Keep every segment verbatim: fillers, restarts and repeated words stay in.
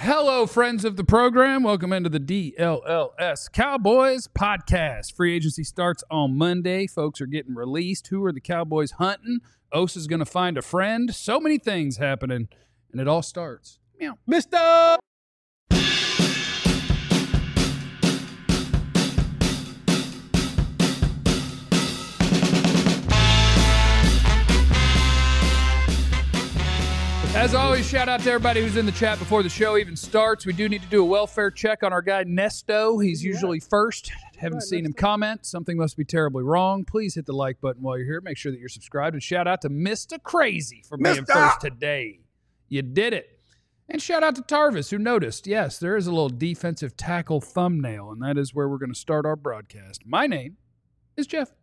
Hello, friends of the program. Welcome into the D L L S Cowboys podcast. Free agency starts on Monday. Folks are getting released. Who are the Cowboys hunting? Osa's going to find a friend. So many things happening, and it all starts. Meow. Mister As always, shout out to everybody who's in the chat before the show even starts. We do need to do a welfare check on our guy Nesto. He's usually first. Haven't seen him comment. Something must be terribly wrong. Please hit the like button while you're here. Make sure that you're subscribed. And shout out to Mister Crazy for being Mister first today. You did it. And shout out to Tarvis, who noticed, yes, there is a little defensive tackle thumbnail, and that is where we're going to start our broadcast. My name is Jeff.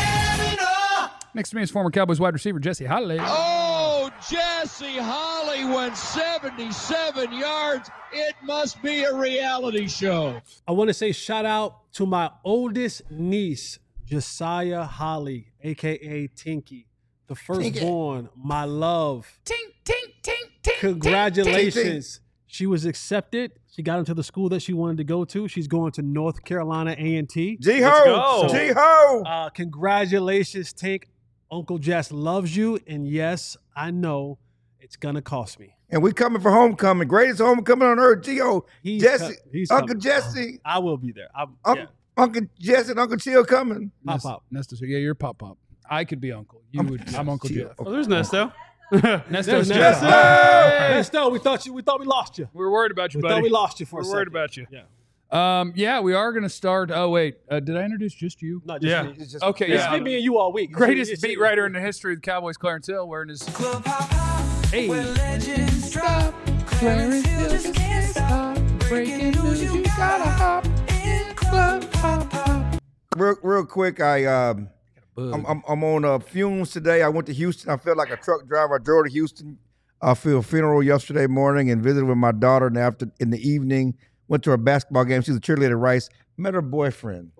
Next to me is former Cowboys wide receiver Jesse Holley. Oh, Jesse Holley went seventy-seven yards. It must be a reality show. I want to say shout out to my oldest niece, Josiah Holly, a k a. Tinky, the firstborn, my love. Tink, tink, tink, tink. Congratulations. She was accepted. She got into the school that she wanted to go to. She's going to North Carolina A and T. G-Ho! So, G-Ho! Uh, congratulations, Tink. Uncle Jess loves you, and yes, I know it's going to cost me. And we coming for homecoming. Greatest homecoming on earth. G-O. He's Jesse. co- he's Uncle coming. Jesse. I will be there. I'm, Uncle, yeah. Uncle Jesse and Uncle Chill coming. Pop Nest- Pop. Nesto, yeah, you're Pop Pop. I could be Uncle. You I'm- would. I'm Uncle Chill. Jeff. Okay. Oh, there's Nesto. Nesto's There's Jeff. Nesto. Hey! Nesto, we thought you. We thought we lost you. We're worried about you, We buddy. thought we lost you for We're a worried second. about you. Yeah. Um, yeah, we are going to start. Oh, wait. Uh, did I introduce just you? Not just Yeah. me. It's just- Okay, It's yeah. been me and you all week. Greatest It's- beat it's- writer in the history of the Cowboys, Clarence Hill, wearing his. Club hop hop, Hey. where legends drop. Clarence Hill just can't stop. Breaking news, you gotta hop in Club hop hop. Real, real quick, I um, I'm, I'm I'm on uh, fumes today. I went to Houston. I felt like a truck driver. I drove to Houston uh, for a funeral yesterday morning and visited with my daughter. And after in the evening, went to her basketball game. She's a cheerleader at Rice. Met her boyfriend.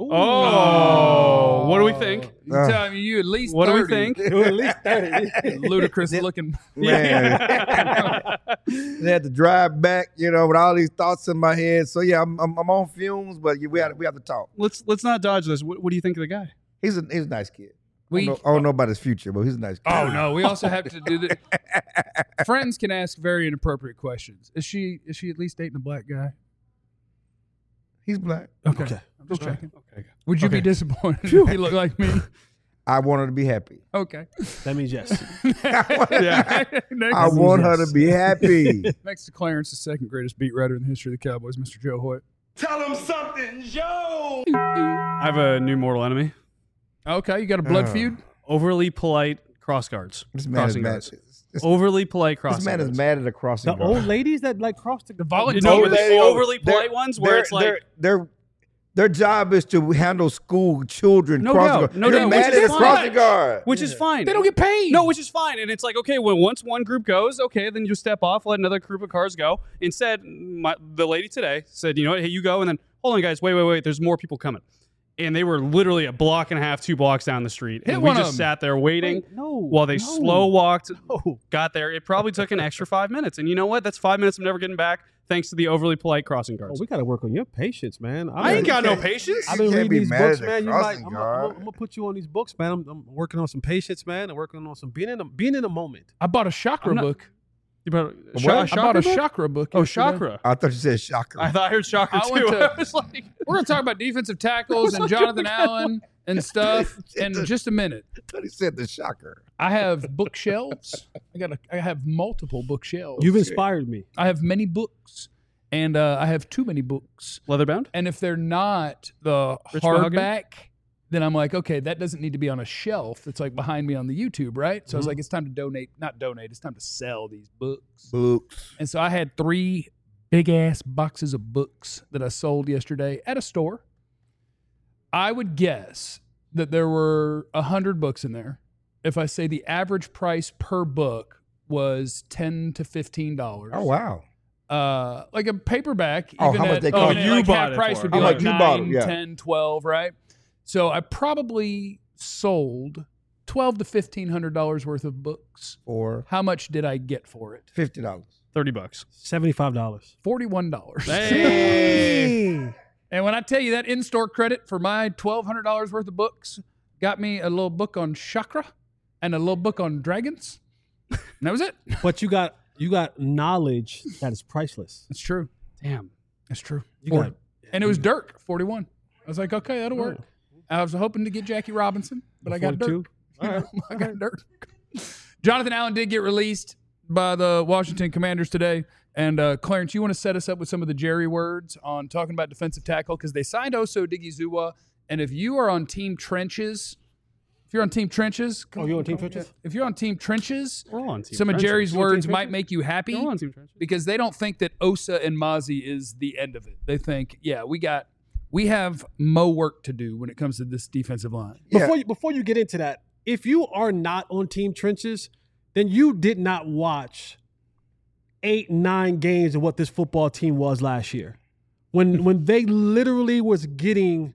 Oh, what do we think? You Uh, tell me you at least What do we thirty. think? You're at least thirty. Ludicrous looking. Man, they had to drive back, you know, with all these thoughts in my head. So yeah, I'm I'm, I'm on fumes, but we have we have to talk. Let's let's not dodge this. What, what do you think of the guy? He's a he's a nice kid. We, I, don't know, I don't know about his future, but he's a nice kid. oh no, we also have to do the. Friends can ask very inappropriate questions. Is she is she at least dating a black guy? He's black. Okay, Okay. I'm just Okay. checking. Okay. Would you Okay. be disappointed if he looked like me? I want her to be happy. Okay. That means yes. yeah. Next, I want her to be happy. next to Clarence, the second greatest beat writer in the history of the Cowboys, Mister Joe Hoyt. Tell him something, Joe. I have a new mortal enemy. Okay, you got a blood Oh. feud? Overly polite cross guards. This man is Crossing mad. guards. This, Overly polite crossing this man is guards. mad at a crossing The guard. old ladies that like cross the, The You volunteers. know, Old the lady- overly they're- polite ones where they're- it's like, they're, they're, their job is to handle school children No crossing doubt, guard. no You're doubt, mad which at is a crossing fine. guard. which is fine. They don't get paid. No, which is fine. And it's like, okay, when once one group goes, okay, then you step off, let another group of cars go. Instead, my, the lady today said, you know what, hey, you go, and then, hold on, guys, wait, wait, wait, there's more people coming. And they were literally a block and a half, two blocks down the street. Hit And we one of just them. sat there waiting Wait, no, while they no. slow walked, No. got there. It probably took an extra five minutes. And you know what? That's five minutes I'm never getting back thanks to the overly polite crossing Oh, guards. we got to work on your patience, man. I ain't you got no can't- patience. I've You been can't reading be these mad books, at a man. You might, crossing I'm, guard. I'm, I'm gonna put you on these books, man. I'm, I'm working on some patience, man. I'm working on some being in the being in the moment. I bought a chakra I'm not- book. You brought a, What? Sha- I bought a book? chakra book. Oh, yesterday. chakra. I thought you said shocker. I thought I heard chakra I too. went to- I was like, We're going to talk about defensive tackles and Jonathan Allen and stuff in just a minute. I thought he said the shocker. I have bookshelves. I got. A, I have multiple bookshelves. You've inspired me. I have many books, and uh, I have too many books. leatherbound? And if they're not the Rich mahogany? hardback, then I'm like, okay, that doesn't need to be on a shelf. It's like behind me on the YouTube, right? So I was like, it's time to donate. Not donate. It's time to sell these books. Books. And so I had three big ass boxes of books that I sold yesterday at a store. I would guess that there were a hundred books in there. If I say the average price per book was ten to fifteen dollars. Oh wow. Uh, like a paperback, Oh, even how much at, they even cost? at, You like bought half it price for. would be How like much you nine, bought it, yeah. ten, twelve, right? So I probably sold twelve to fifteen hundred dollars worth of books. For How much did I get for it? fifty dollars. thirty bucks. seventy-five dollars. forty-one dollars. Hey. And when I tell you that in-store credit for my twelve hundred dollars worth of books got me a little book on chakra and a little book on dragons, and that was it. But you got you got knowledge that is priceless. That's true. Damn. That's true. You forty. got- And it was Dirk, forty-one. I was like, okay, that'll work. I was hoping to get Jackie Robinson, but I got Dirk. All right. I got Dirk. Jonathan Allen did get released by the Washington Commanders today. And uh, Clarence, you want to set us up with some of the Jerry words on talking about defensive tackle? Because they signed Oso Odighizuwa. And if you are on Team Trenches, if you're on Team Trenches. Oh, you're on Team Trenches? If you're on Team Trenches, We're all on team some of trenches. Jerry's You on Team words might Trenches? make you happy. We're all on team trenches. Because they don't think that Osa and Mozzie is the end of it. They think, yeah, we got, we have mo work to do when it comes to this defensive line. Yeah. Before you, before you get into that, if you are not on Team Trenches, then you did not watch eight, nine games of what this football team was last year. When when they literally was getting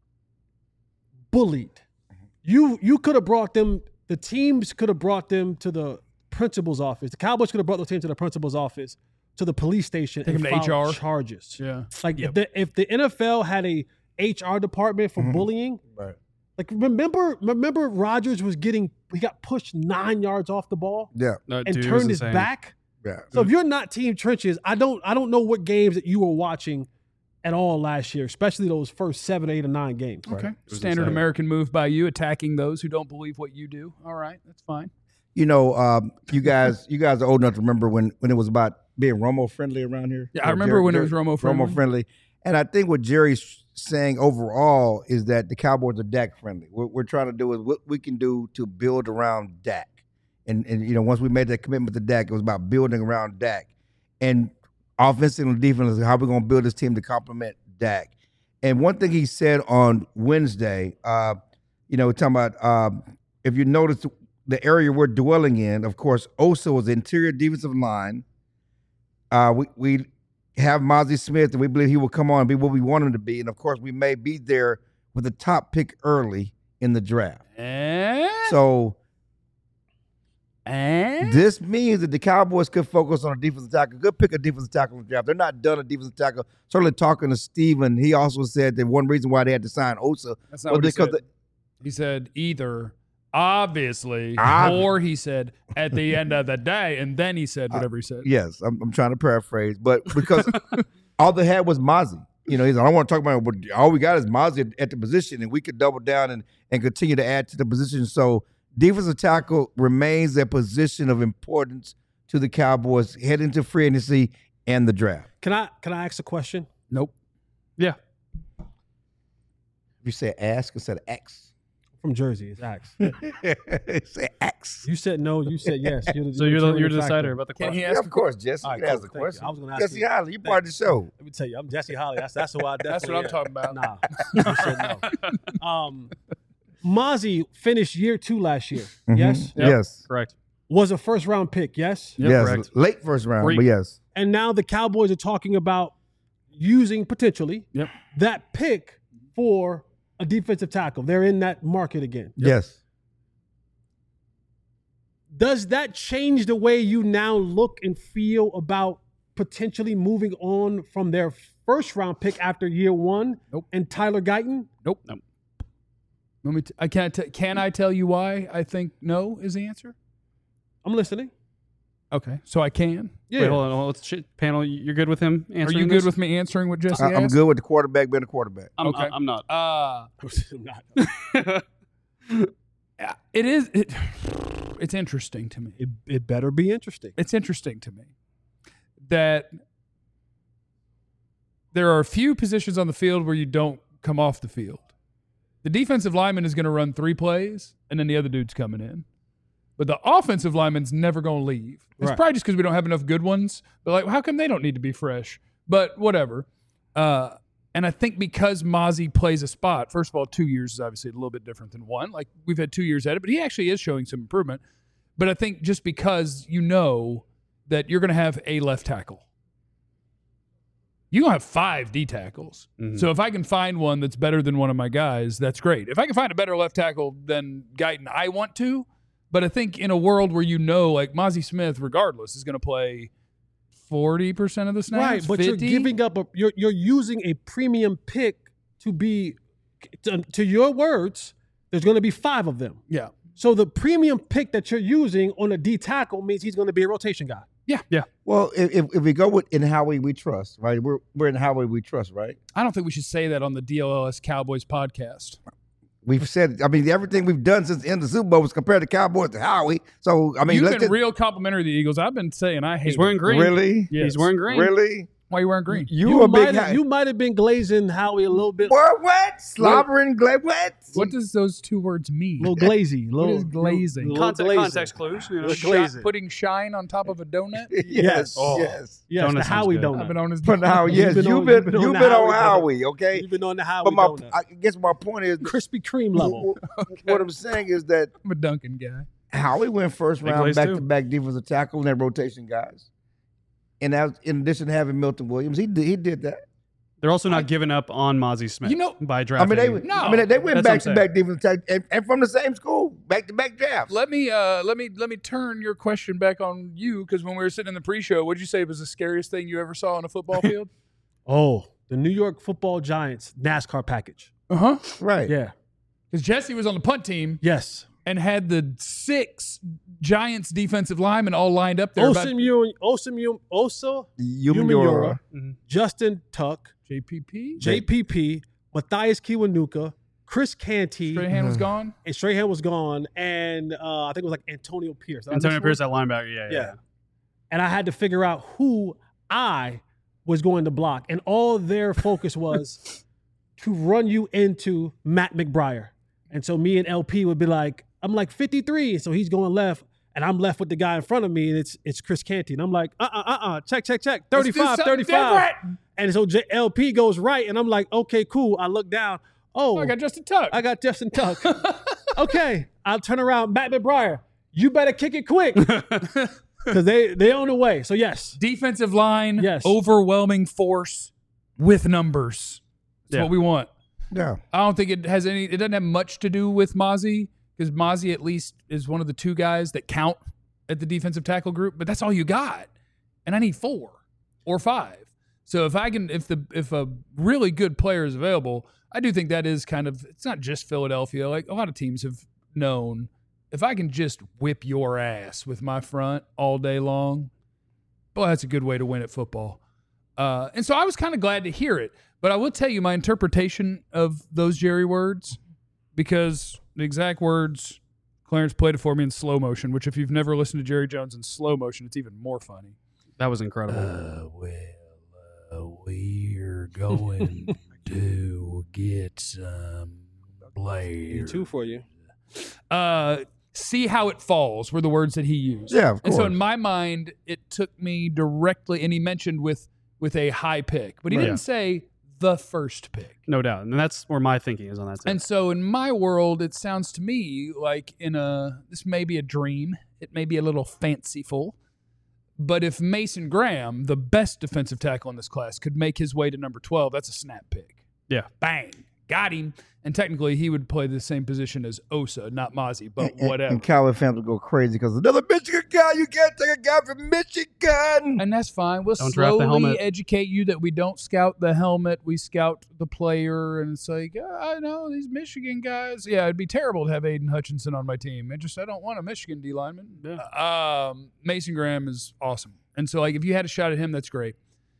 bullied. You you could have brought them, the teams could have brought them to the principal's office. The Cowboys could have brought those teams to the principal's office, to the police station, Take and them to H R. filed charges. Yeah. Like Yep. if, the, if the N F L had a H R department for bullying, Right. like remember remember Rodgers was getting, he got pushed nine yards off the ball Yeah. That and dude was turned his insane. back. Yeah. So if you're not Team Trenches, I don't I don't know what games that you were watching at all last year, especially those first seven, eight, or nine games. Okay. was Standard insane. American move by you, attacking those who don't believe what you do. All right. That's fine. You know, um, you guys, you guys are old enough to remember when, when it was about being Romo friendly around here. Yeah, I remember when it was Romo friendly. Romo friendly, and I think what Jerry's saying overall is that the Cowboys are Dak friendly. What we're trying to do is what we can do to build around Dak, and and you know, once we made that commitment to Dak, it was about building around Dak, and offensive and defense, how we're going to build this team to complement Dak. And one thing he said on Wednesday, uh, you know, talking about um, if you notice the area we're dwelling in, of course, Osa was the interior defensive line. Uh, we we have Mozzie Smith, and we believe he will come on and be what we want him to be. And of course, we may be there with the top pick early in the draft. And, So and this means that the Cowboys could focus on a defensive tackle. Good pick a defensive tackle in the draft. They're not done a defensive tackle. Certainly talking to Steven, he also said that one reason why they had to sign Osa that's not was what he because said. He said either obviously, Obvi- or he said at the end of the day, and then he said whatever he said. yes, I'm, I'm trying to paraphrase, but because all they had was Mozzie. You know, he's like, I don't want to talk about it, but all we got is Mozzie at, at the position, and we could double down and, and continue to add to the position. So defensive tackle remains a position of importance to the Cowboys heading to free agency and the draft. Can I can I ask a question? Nope. Yeah. If you say ask instead of X, From Jersey, it's Axe. say X. You said no, you said yes. You're the, So you're the determining you're the factor. decider about the Can question. he Yeah, ask of course, Jesse. All You right, can cool. ask the Thank you. question. I was gonna ask Jesse you. Holly, you part of the show. Let me tell you, I'm Jesse Holly. That's that's who I definitely That's what I'm am. talking about. Nah, you said no. Um, Mozzie finished year two last year. Mhm. Yes, Yep. Yes. Correct. was a first round pick. Yes, Yep, yes. correct. Late first round, Freak. but yes. and now the Cowboys are talking about using potentially Yep. that pick for a defensive tackle. They're in that market again. Yes. Does that change the way you now look and feel about potentially moving on from their first round pick after year one Nope. and Tyler Guyton? Nope. Nope. Let me. T- I can't. T- can I tell you why I think no is the answer? I'm listening. Okay, so I can. Yeah. Wait, hold on. hold on. Let's sh- panel. You're good with him Are answering you good this? with me answering what Jesse I, I'm asked? good with the quarterback being a quarterback. I'm, Okay. I'm not. Uh, I'm not. yeah, it is. It, it's interesting to me. It, it better be interesting. It's interesting to me that there are a few positions on the field where you don't come off the field. The defensive lineman is going to run three plays, and then the other dude's coming in. But the offensive lineman's never going to leave. It's Right. probably just because we don't have enough good ones. But like, how come they don't need to be fresh? But whatever. Uh, and I think because Mozzie plays a spot, first of all, two years is obviously a little bit different than one. Like we've had two years at it, but he actually is showing some improvement. But I think just because you know that you're going to have a left tackle, you're going to have five D tackles. Mhm. So if I can find one that's better than one of my guys, that's great. If I can find a better left tackle than Guyton, I want to. But I think in a world where you know, like Mozzie Smith, regardless, is going to play forty percent of the snaps. Right, but fifty? you're giving up a you're you're using a premium pick to be to, to your words, there's going to be five of them. Yeah. So the premium pick that you're using on a D tackle means he's going to be a rotation guy. Yeah. Yeah. Well, if, if if we go with in Howie we trust, right? We're we're in Howie we trust, right? I don't think we should say that on the D L L S Cowboys podcast. We've said, I mean, everything we've done since the end of the Super Bowl was compared to Cowboys to Howie. So, I mean, You've let's been just, real complimentary of the Eagles. I've been saying I hate He's wearing it. green. really, Yes. He's wearing green. really. Why are you wearing green? You, You a might big have, Howie. you might have been glazing Howie a little bit, What? What? Slobbering, gla- what? What does those two words mean? little glazy, What little is glazing? little Context, glazing. context clues. You know. Little Shi- glazing. putting shine on top of a donut? yes, Oh. yes. Yes, Donut the sounds Howie good. I've been donut. on his But now, You've yes, been you've on- been you've been on you've the been on Howie Howie, okay. You've been on the Howie But my, donut, I guess my point is, Krispy Kreme level. what I'm saying is that I'm a Duncan guy. Howie went first Big round glaze back too. to back defensive tackle and their rotation guys. And that was, in addition to having Milton Williams, he did, he did that. They're also not giving up on Mozzie Smith. You know- by I drafting. mean, they No. I mean they went That's what I'm back to back defensive tackle and, and from the same school, back to back drafts. Let me uh let me let me turn your question back on you, because when we were sitting in the pre-show, what'd you say was the scariest thing you ever saw on a football field? Oh, the New York Football Giants NASCAR package. Uh-huh. Right. Yeah. Because Jesse was on the punt team Yes. and had the six Giants defensive linemen all lined up there. about- Osim Yun, Osim Yun, Osa, Umenyiora. Justin Tuck, J P P? J P P, Matthias Kiwanuka, Chris Canty, Strahan was gone. and Strahan was gone, and uh, I think it was like Antonio Pierce. Did I Antonio miss Pierce one? at linebacker. Yeah, yeah. Yeah. And I had to figure out who I was going to block, and all their focus was to run you into Matt McBriar. And so me and L P would be like, I'm like fifty-three, so he's going left, and I'm left with the guy in front of me, and it's it's Chris Canty. And I'm like, uh-uh, uh-uh, check, check, check, Let's do thirty-five, something thirty-five. different. And so J- L P goes right, and I'm like, okay, cool. I look down. Oh, Oh, I got Justin Tuck. I got Justin Tuck. Okay, I'll turn around. Matt McBriar, you better kick it quick because they they on the way. So yes, Defensive line, Yes. overwhelming force with numbers. That's Yeah. what we want. Yeah. I don't think it has any. It doesn't have much to do with Mozzie, because Mozzie at least is one of the two guys that count at the defensive tackle group. But that's all you got, and I need four or five. So if I can, if the if a really good player is available, I do think that is kind of. It's not just Philadelphia. Like a lot of teams have known, if I can just whip your ass with my front all day long, boy, that's a good way to win at football. Uh, and so I was kind of glad to hear it. But I will tell you my interpretation of those Jerry words, because the exact words, Clarence played it for me in slow motion, which if you've never listened to Jerry Jones in slow motion, it's even more funny. That was incredible. Uh, well, uh, we're going to get some players. two for you. Uh, see how it falls were the words that he used. Yeah, of And so course. in my mind, it took me directly, and he mentioned with with a high pick, but he Right. didn't say the first pick. No doubt. And that's where my thinking is on that. Too. And so in my world, it sounds to me like in a this may be a dream. It may be a little fanciful. But if Mason Graham, the best defensive tackle in this class, could make his way to number twelve, that's a snap pick. yeah. Bang. Got him. And technically he would play the same position as Osa, not Mozzie, but And- whatever. And Cowboy fans will go crazy because another Michigan guy. You can't take a guy from Michigan. And that's fine. We'll Don't draft the slowly helmet. educate you that we don't scout the helmet. We scout the player. And it's like, "Yeah, I know these Michigan guys. Yeah, it'd be terrible to have Aiden Hutchinson on my team. I just, I don't want a Michigan D lineman. Yeah. Um, Mason Graham is awesome. And so, like, if you had a shot at him, that's great.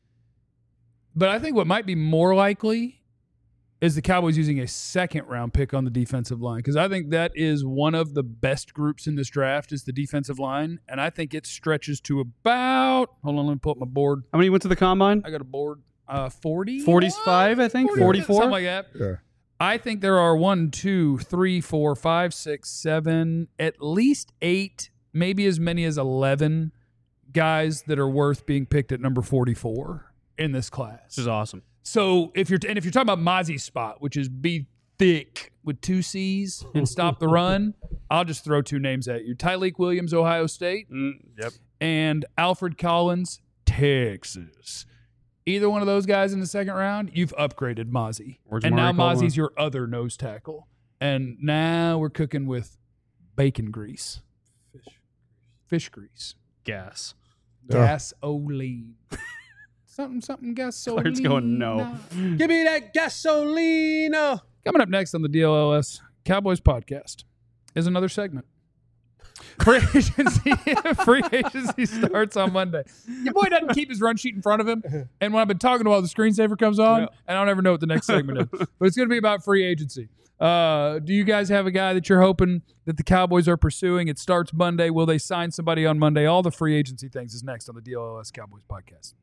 But I think what might be more likely is the Cowboys using a second round pick on the defensive line, because I think that is one of the best groups in this draft is the defensive line, and I think it stretches to about. Hold on, let me pull up my board. How many went to the combine? I got a board. Uh, forty, forty-five, I think. forty-four. something like that. Yeah. I think there are one, two, three, four, five, six, seven, at least eight, maybe as many as eleven guys that are worth being picked at number forty-four in this class. This is awesome. So if you're and if you're talking about Mozzie's spot, which is be thick with two C's and stop the run, I'll just throw two names at you: Tyleik Williams, Ohio State, Mm, yep. and Alfred Collins, Texas. Either one of those guys in the second round, you've upgraded Mozzie, Or and now Jamari Caldwell. Mozzie's your other nose tackle. And now we're cooking with bacon grease, fish, fish grease. Gas. Gasoline. something, something gasoline. Clark's going, no. Give me that gasoline. Coming up next on the D L L S Cowboys podcast is another segment. Free agency, free agency starts on Monday. Your boy doesn't keep his run sheet in front of him, and when I've been talking to while the screensaver comes on, Yeah. and I don't ever know what the next segment is. But it's going to be about free agency. Uh, do you guys have a guy that you're hoping that the Cowboys are pursuing? It starts Monday. Will they sign somebody on Monday? All the free agency things is next on the D L L S Cowboys podcast.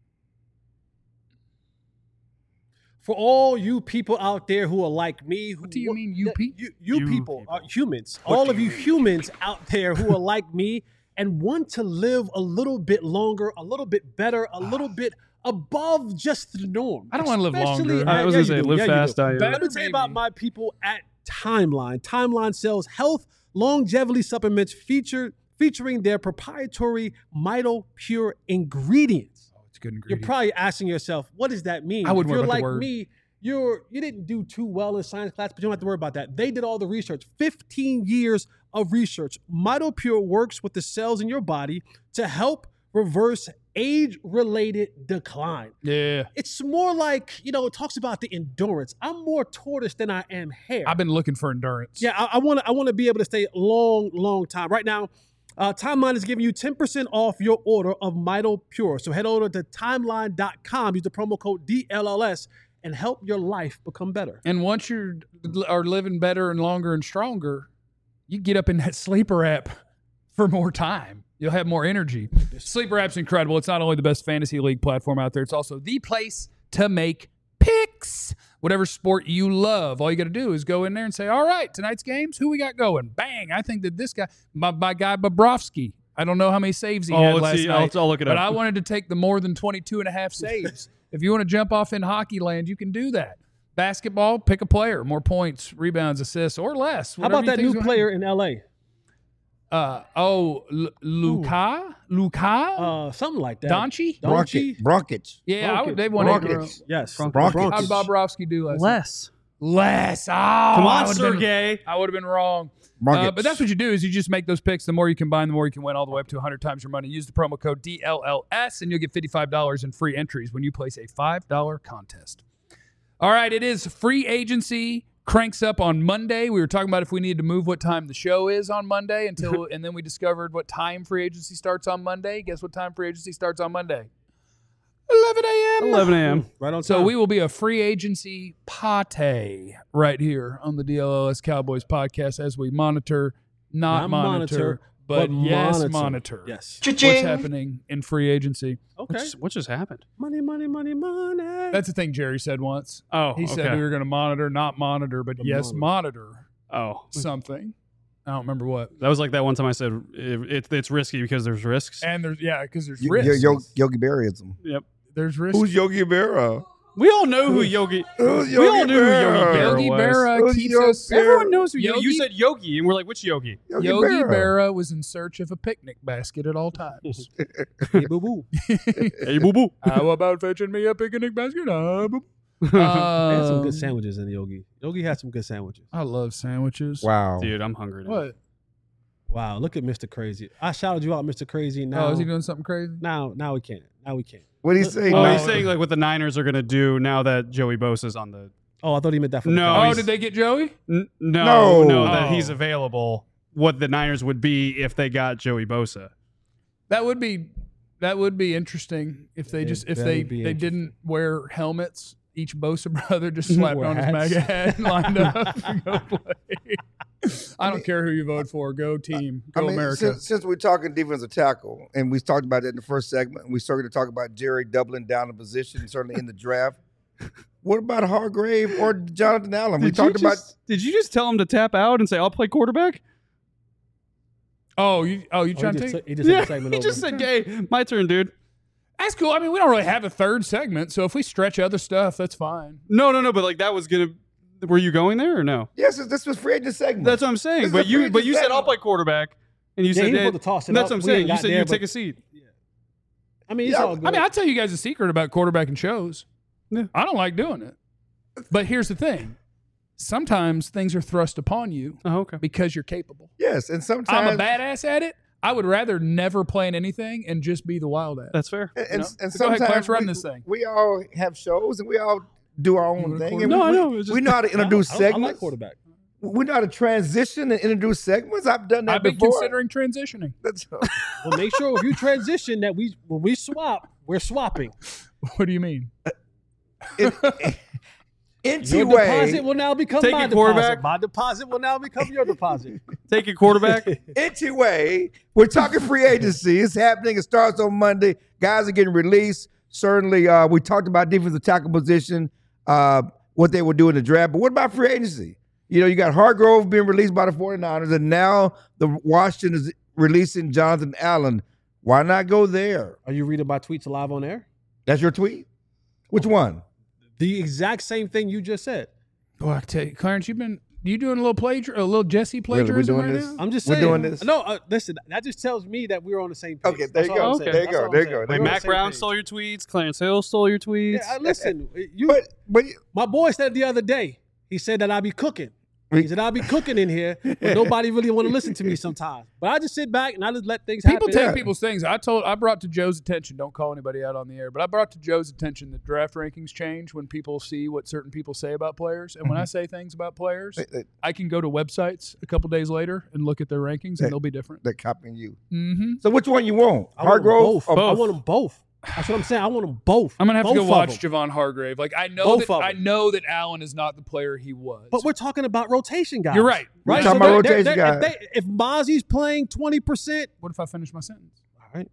For all you people out there who are like me, who, What do you mean, you pe- You, you, You people, people. are humans. all of you humans out there who are like me and want to live a little bit longer, a little bit better, a little bit above just the norm. I don't wanna live Especially- longer. Uh, I was yeah, gonna say, you do. live Yeah, you fast, do. die young. Let me tell you about Maybe. my people at Timeline. Timeline sells health longevity supplements feature, featuring their proprietary Mito Pure ingredients. Oh, it's a good You're ingredient. probably asking yourself, what does that mean? I wouldn't if worry you're about the like word. me, you're you didn't do too well in science class, but you don't have to worry about that. They did all the research. fifteen years of research. Mito Pure works with the cells in your body to help reverse age-related decline. Yeah. It's more like, you know, it talks about the endurance. I'm more tortoise than I am hair. I've been looking for endurance. Yeah, I want to. I want to be able to stay a long, long time. Right now, uh, Timeline is giving you ten percent off your order of Mito Pure. So head over to timeline dot com. Use the promo code D L L S and help your life become better. And once you are living better and longer and stronger, you get up in that sleeper app for more time. You'll have more energy. Sleeper app's incredible. It's not only the best fantasy league platform out there, it's also the place to make picks. Whatever sport you love, all you got to do is go in there and say, all right, tonight's games, who we got going? Bang. I think that this guy, my, my guy Bobrovsky, I don't know how many saves he Oh, had let's last see. night. I'll- I'll look it but up. I wanted to take the more than twenty-two and a half saves. If you want to jump off in hockey land, you can do that. Basketball, pick a player, more points, rebounds, assists, or less. How whatever about you that think's new gonna player in L A? happen. Uh, oh, L- Luka? Luka? Uh, something like that. Doncic? Doncic? Bronkit, Bronkits. Yeah, I would, Bronkits. they won eight in a row. Rockets. Yes. Bronkits. How did Bobrovsky do last night? Less. Less. Oh, Come I on, would've been- Sergey. I would have been wrong. Bronkits. Uh, but that's what you do is you just make those picks. The more you combine, the more you can win all the way up to one hundred times your money. Use the promo code D L L S and you'll get fifty-five dollars in free entries when you place a five dollar contest. All right, it is free agency cranks up on Monday. We were talking about if we needed to move what time the show is on Monday until, and then we discovered what time free agency starts on Monday. Guess what time free agency starts on Monday? eleven a.m. eleven a.m. Right on So time. we will be a free agency pate right here on the D L L S Cowboys podcast as we monitor, not, Not monitor, monitor, but, but yes, monitor. monitor. Yes. What's happening in free agency? Okay. What just, what just happened? Money, money, money, money. That's the thing Jerry said once. Oh, He okay. said we were going to monitor, not monitor, but But yes, monitor Oh, something. I don't remember what. that was like that one time I said it, it, it's risky because there's risks. And there's, yeah, because there's Yo- risks. Yo- Yogi Berraism. Yep. There's risks. Who's Yogi Berra? We all know who Yogi. Who's we all Yogi knew who Yogi Berra? Berra Yogi was. Berra Who's keeps Yogi us. Berra? Everyone knows who you. Yogi- You said Yogi, and we're like, which Yogi? Yogi, Yogi Berra. Berra was in search of a picnic basket at all times. Hey, boo boo. Hey, boo boo. How about fetching me a picnic basket? Uh, boop. They had some Um, good sandwiches in Yogi. Yogi had some good sandwiches. I love sandwiches. Wow. Dude, I'm hungry. Now. What? Wow, look at Mister Crazy. I shouted you out, Mister Crazy. Now, Oh, is he doing something crazy? now, now we can't. Now we can't. What do you say? Oh, now? he's saying like what the Niners are gonna do now that Joey Bosa's on the. Oh, I thought he meant that for No, the Oh, he's- did they get Joey? N- no, No. no, that Oh. he's available. What the Niners would be if they got Joey Bosa. That would be that would be interesting if they It'd just if very they be they didn't wear helmets. Each Bosa brother just slapped Wear on his hats. MAGA hat and lined up to go play. I don't care who you vote for. Go team. Go I mean, America. Since, since we're talking defensive tackle, and we talked about it in the first segment, and we started to talk about Jerry doubling down the position, certainly in the draft. What about Hargrave or Jonathan Allen? we Did you talked about. just- Did you just tell him to tap out and say I'll play quarterback? oh, you oh you Oh, trying he to just, take? took- he just Yeah, took the segment he over. just said, "Hey, my turn, dude." That's cool. I mean, we don't really have a third segment, so if we stretch other stuff, that's fine. No, no, no. But like that was gonna. Were you going there or no? Yes, this was free agent segment. That's what I'm This saying. is But a you, free but you said agent I'll play quarterback, and you Yeah, said he was that- supposed to toss it That's up. what I'm We saying. ain't You got said there, you take but- a seat. I mean, it's Yeah, all good. I mean, I'll tell you guys a secret about quarterbacking shows. Yeah. I don't like doing it. But here's the thing. Sometimes things are thrust upon you Oh, okay. because you're capable. Yes, and I'm sometimes a badass at it. I would rather never play in anything and just be the wild at. That's fair. And, You know? and, and So go ahead, sometimes Clarence, run we, this thing. we all have shows and we all do our own thing. And No, we, I we- know, it's just- we know how to introduce I, don't- I like segments. quarterback. We know how to transition and introduce segments. I've done that I've been before. considering transitioning. That's Well, make sure if you transition that we when we swap, we're swapping. What do you mean? it, Your N T deposit way. will now become Take my it, quarterback. deposit. My deposit will now become your deposit. Take a quarterback. N T way. We're talking free agency. It's happening. It starts on Monday. Guys are getting released. Certainly, uh, we talked about defensive tackle position, uh, what they will do in the draft. But what about free agency? You know, you got Hargrove being released by the 49ers, and now the Washington is releasing Jonathan Allen. Why not go there? Are you reading my tweets live on air? That's your tweet? Which one? The exact same thing you just said. Boy, I tell you, Clarence, you've been you doing a little plagiar, a little Jesse Really, we're plagiarism doing right this? now. I'm just We're saying. doing this? No, uh, listen. That just tells me that we're on the same page. Okay, there That's you all go. I'm saying. There you That's go. all I'm There you saying. go. We're There Wait, you on the Mac same Brown page. stole your tweets. Clarence Hill stole your tweets. Yeah, uh, listen. You, But but my boy said the other day. He said that I be cooking. He said I'll be cooking in here, but nobody really want to listen to me sometimes. But I just sit back and I just let things People happen. take Yeah. people's things. I told, I brought to Joe's attention. Don't call anybody out on the air, but I brought to Joe's attention that draft rankings change when people see what certain people say about players. And when I say things about players, they- they- I can go to websites a couple days later and look at their rankings, They- and they'll be different. they're copying you. Mm-hmm. So which one you want? I want them Hargrove? both. or- I want them both. That's what I'm saying. I want them both. I'm gonna have to Both go of watch them. Javon Hargrave. Like I know Both that of I them. know that Allen is not the player he was. But we're talking about rotation guys. You're right. We're Right. talking So about they're- rotation they're- guys. If, they, if Mozzie's playing twenty percent, what if I finish my sentence? all right,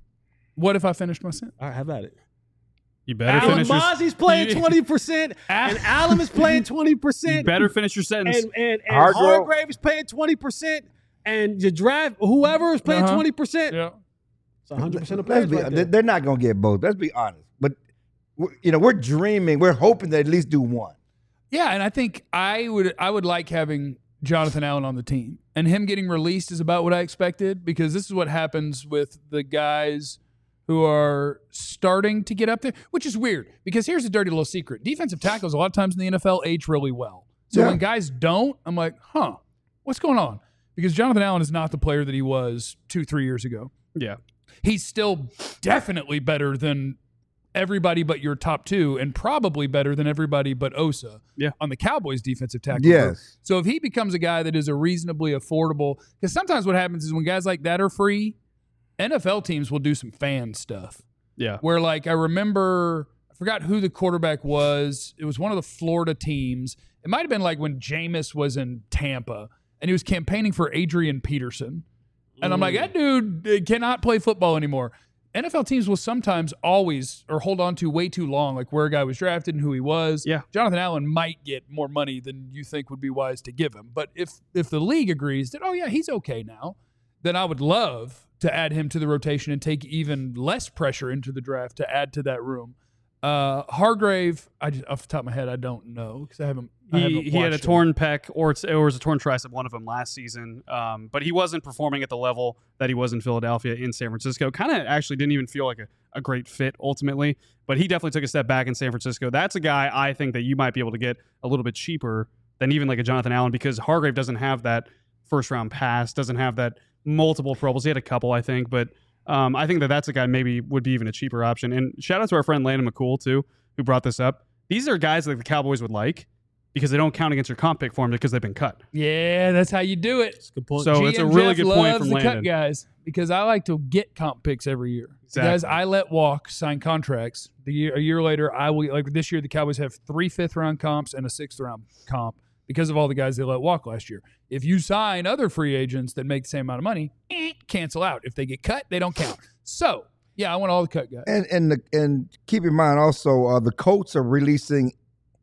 What if I finish my sentence? all right, have at it. You better Alan finish your. Mozzie's playing you- twenty percent, and Allen is playing twenty You percent, better finish your sentence. and and, and Hargrove- Hargrave is paying twenty percent, and your draft whoever is playing Uh-huh. twenty percent. Yeah. It's one hundred percent of Let's players. be, Right there. they're not going to get both. Let's be honest. But we're- you know, we're dreaming. We're hoping to at least do one. Yeah, and I think I would I would like having Jonathan Allen on the team. And him getting released is about what I expected, because this is what happens with the guys who are starting to get up there, which is weird, because here's a dirty little secret. Defensive tackles a lot of times in the N F L age really well. So Yeah. when guys don't, I'm like, huh, what's going on? Because Jonathan Allen is not the player that he was two, three years ago. yeah. He's still definitely better than everybody but your top two, and probably better than everybody but Osa Yeah. on the Cowboys defensive tackle Yes. group. So if he becomes a guy that is a reasonably affordable, because sometimes what happens is when guys like that are free, N F L teams will do some fan stuff. Yeah. Where, like, I remember, I forgot who the quarterback was. It was one of the Florida teams. It might have been like when Jameis was in Tampa, and he was campaigning for Adrian Peterson. And I'm like, that dude uh, cannot play football anymore. N F L teams will sometimes always or hold on to way too long, like where a guy was drafted and who he was. Yeah. Jonathan Allen might get more money than you think would be wise to give him. But if if the league agrees that, oh, yeah, he's okay now, then I would love to add him to the rotation and take even less pressure into the draft to add to that room. Uh, Hargrave, I just, off the top of my head, I don't know because I haven't. I He, haven't he had a watched him. torn pec or, it's, or it was a torn tricep, one of them last season. Um, but he wasn't performing at the level that he was in Philadelphia, in San Francisco. Kind of actually didn't even feel like a, a great fit ultimately. But he definitely took a step back in San Francisco. That's a guy I think that you might be able to get a little bit cheaper than even like a Jonathan Allen, because Hargrave doesn't have that first round pass, doesn't have that multiple Pro Bowls. He had a couple, I think. But um, I think that that's a guy maybe would be even a cheaper option. And shout out to our friend Landon McCool, too, who brought this up. These are guys that the Cowboys would like, because they don't count against your comp pick for them because they've been cut. Yeah, that's how you do it. That's a good point. So G it's a M really Jeff good point loves from the Landon. cut guys, because I like to get comp picks every year. The guys Exactly. I let walk sign contracts. The year a year later, I will like this year. The Cowboys have three fifth round comps and a sixth round comp because of all the guys they let walk last year. If you sign other free agents that make the same amount of money, eh, cancel out. If they get cut, they don't count. So yeah, I want all the cut guys. And and the, and keep in mind also, uh, the Colts are releasing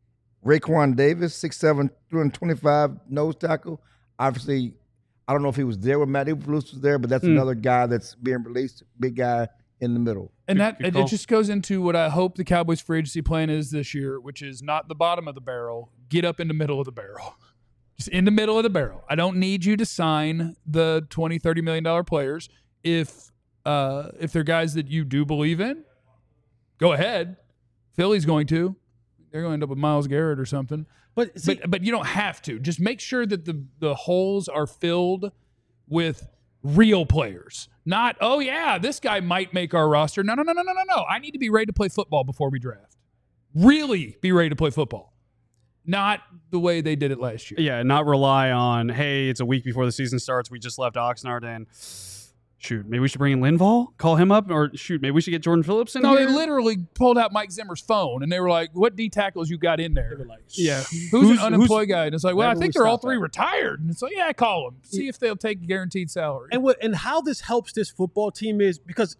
Raekwon Davis, six seven, two twenty-five nose tackle. Obviously, I don't know if he was there when Matt Eberflus was there, but that's Hmm. another guy that's being released. Big guy in the middle. And Good- that good it, call. it just goes into what I hope the Cowboys free agency plan is this year, which is not the bottom of the barrel. Get up in the middle of the barrel. Just in the middle of the barrel. I don't need you to sign the twenty, thirty million dollar players. If uh, if they're guys that you do believe in, go ahead. Philly's going to. They're going to end up with Myles Garrett or something. But, see, But but you don't have to. Just make sure that the the holes are filled with Real players. Not, oh, yeah, this guy might make our roster. No, no, no, no, no, no, no. I need to be ready to play football before we draft. Really be ready to play football. Not the way they did it last year. Yeah, not rely on, hey, it's a week before the season starts. We just left Oxnard and shoot, maybe we should bring in Linval, call him up, or shoot, maybe we should get Jordan Phillips in No, here. they literally pulled out Mike Zimmer's phone and they were like, what D tackles you got in there? They were like, Yeah. Who's, Who's- an unemployed guy? And it's like, well, I Wherever think we they're all stop three at. retired. And it's like, yeah, call them. See if they'll take guaranteed salary. And what and how this helps this football team is because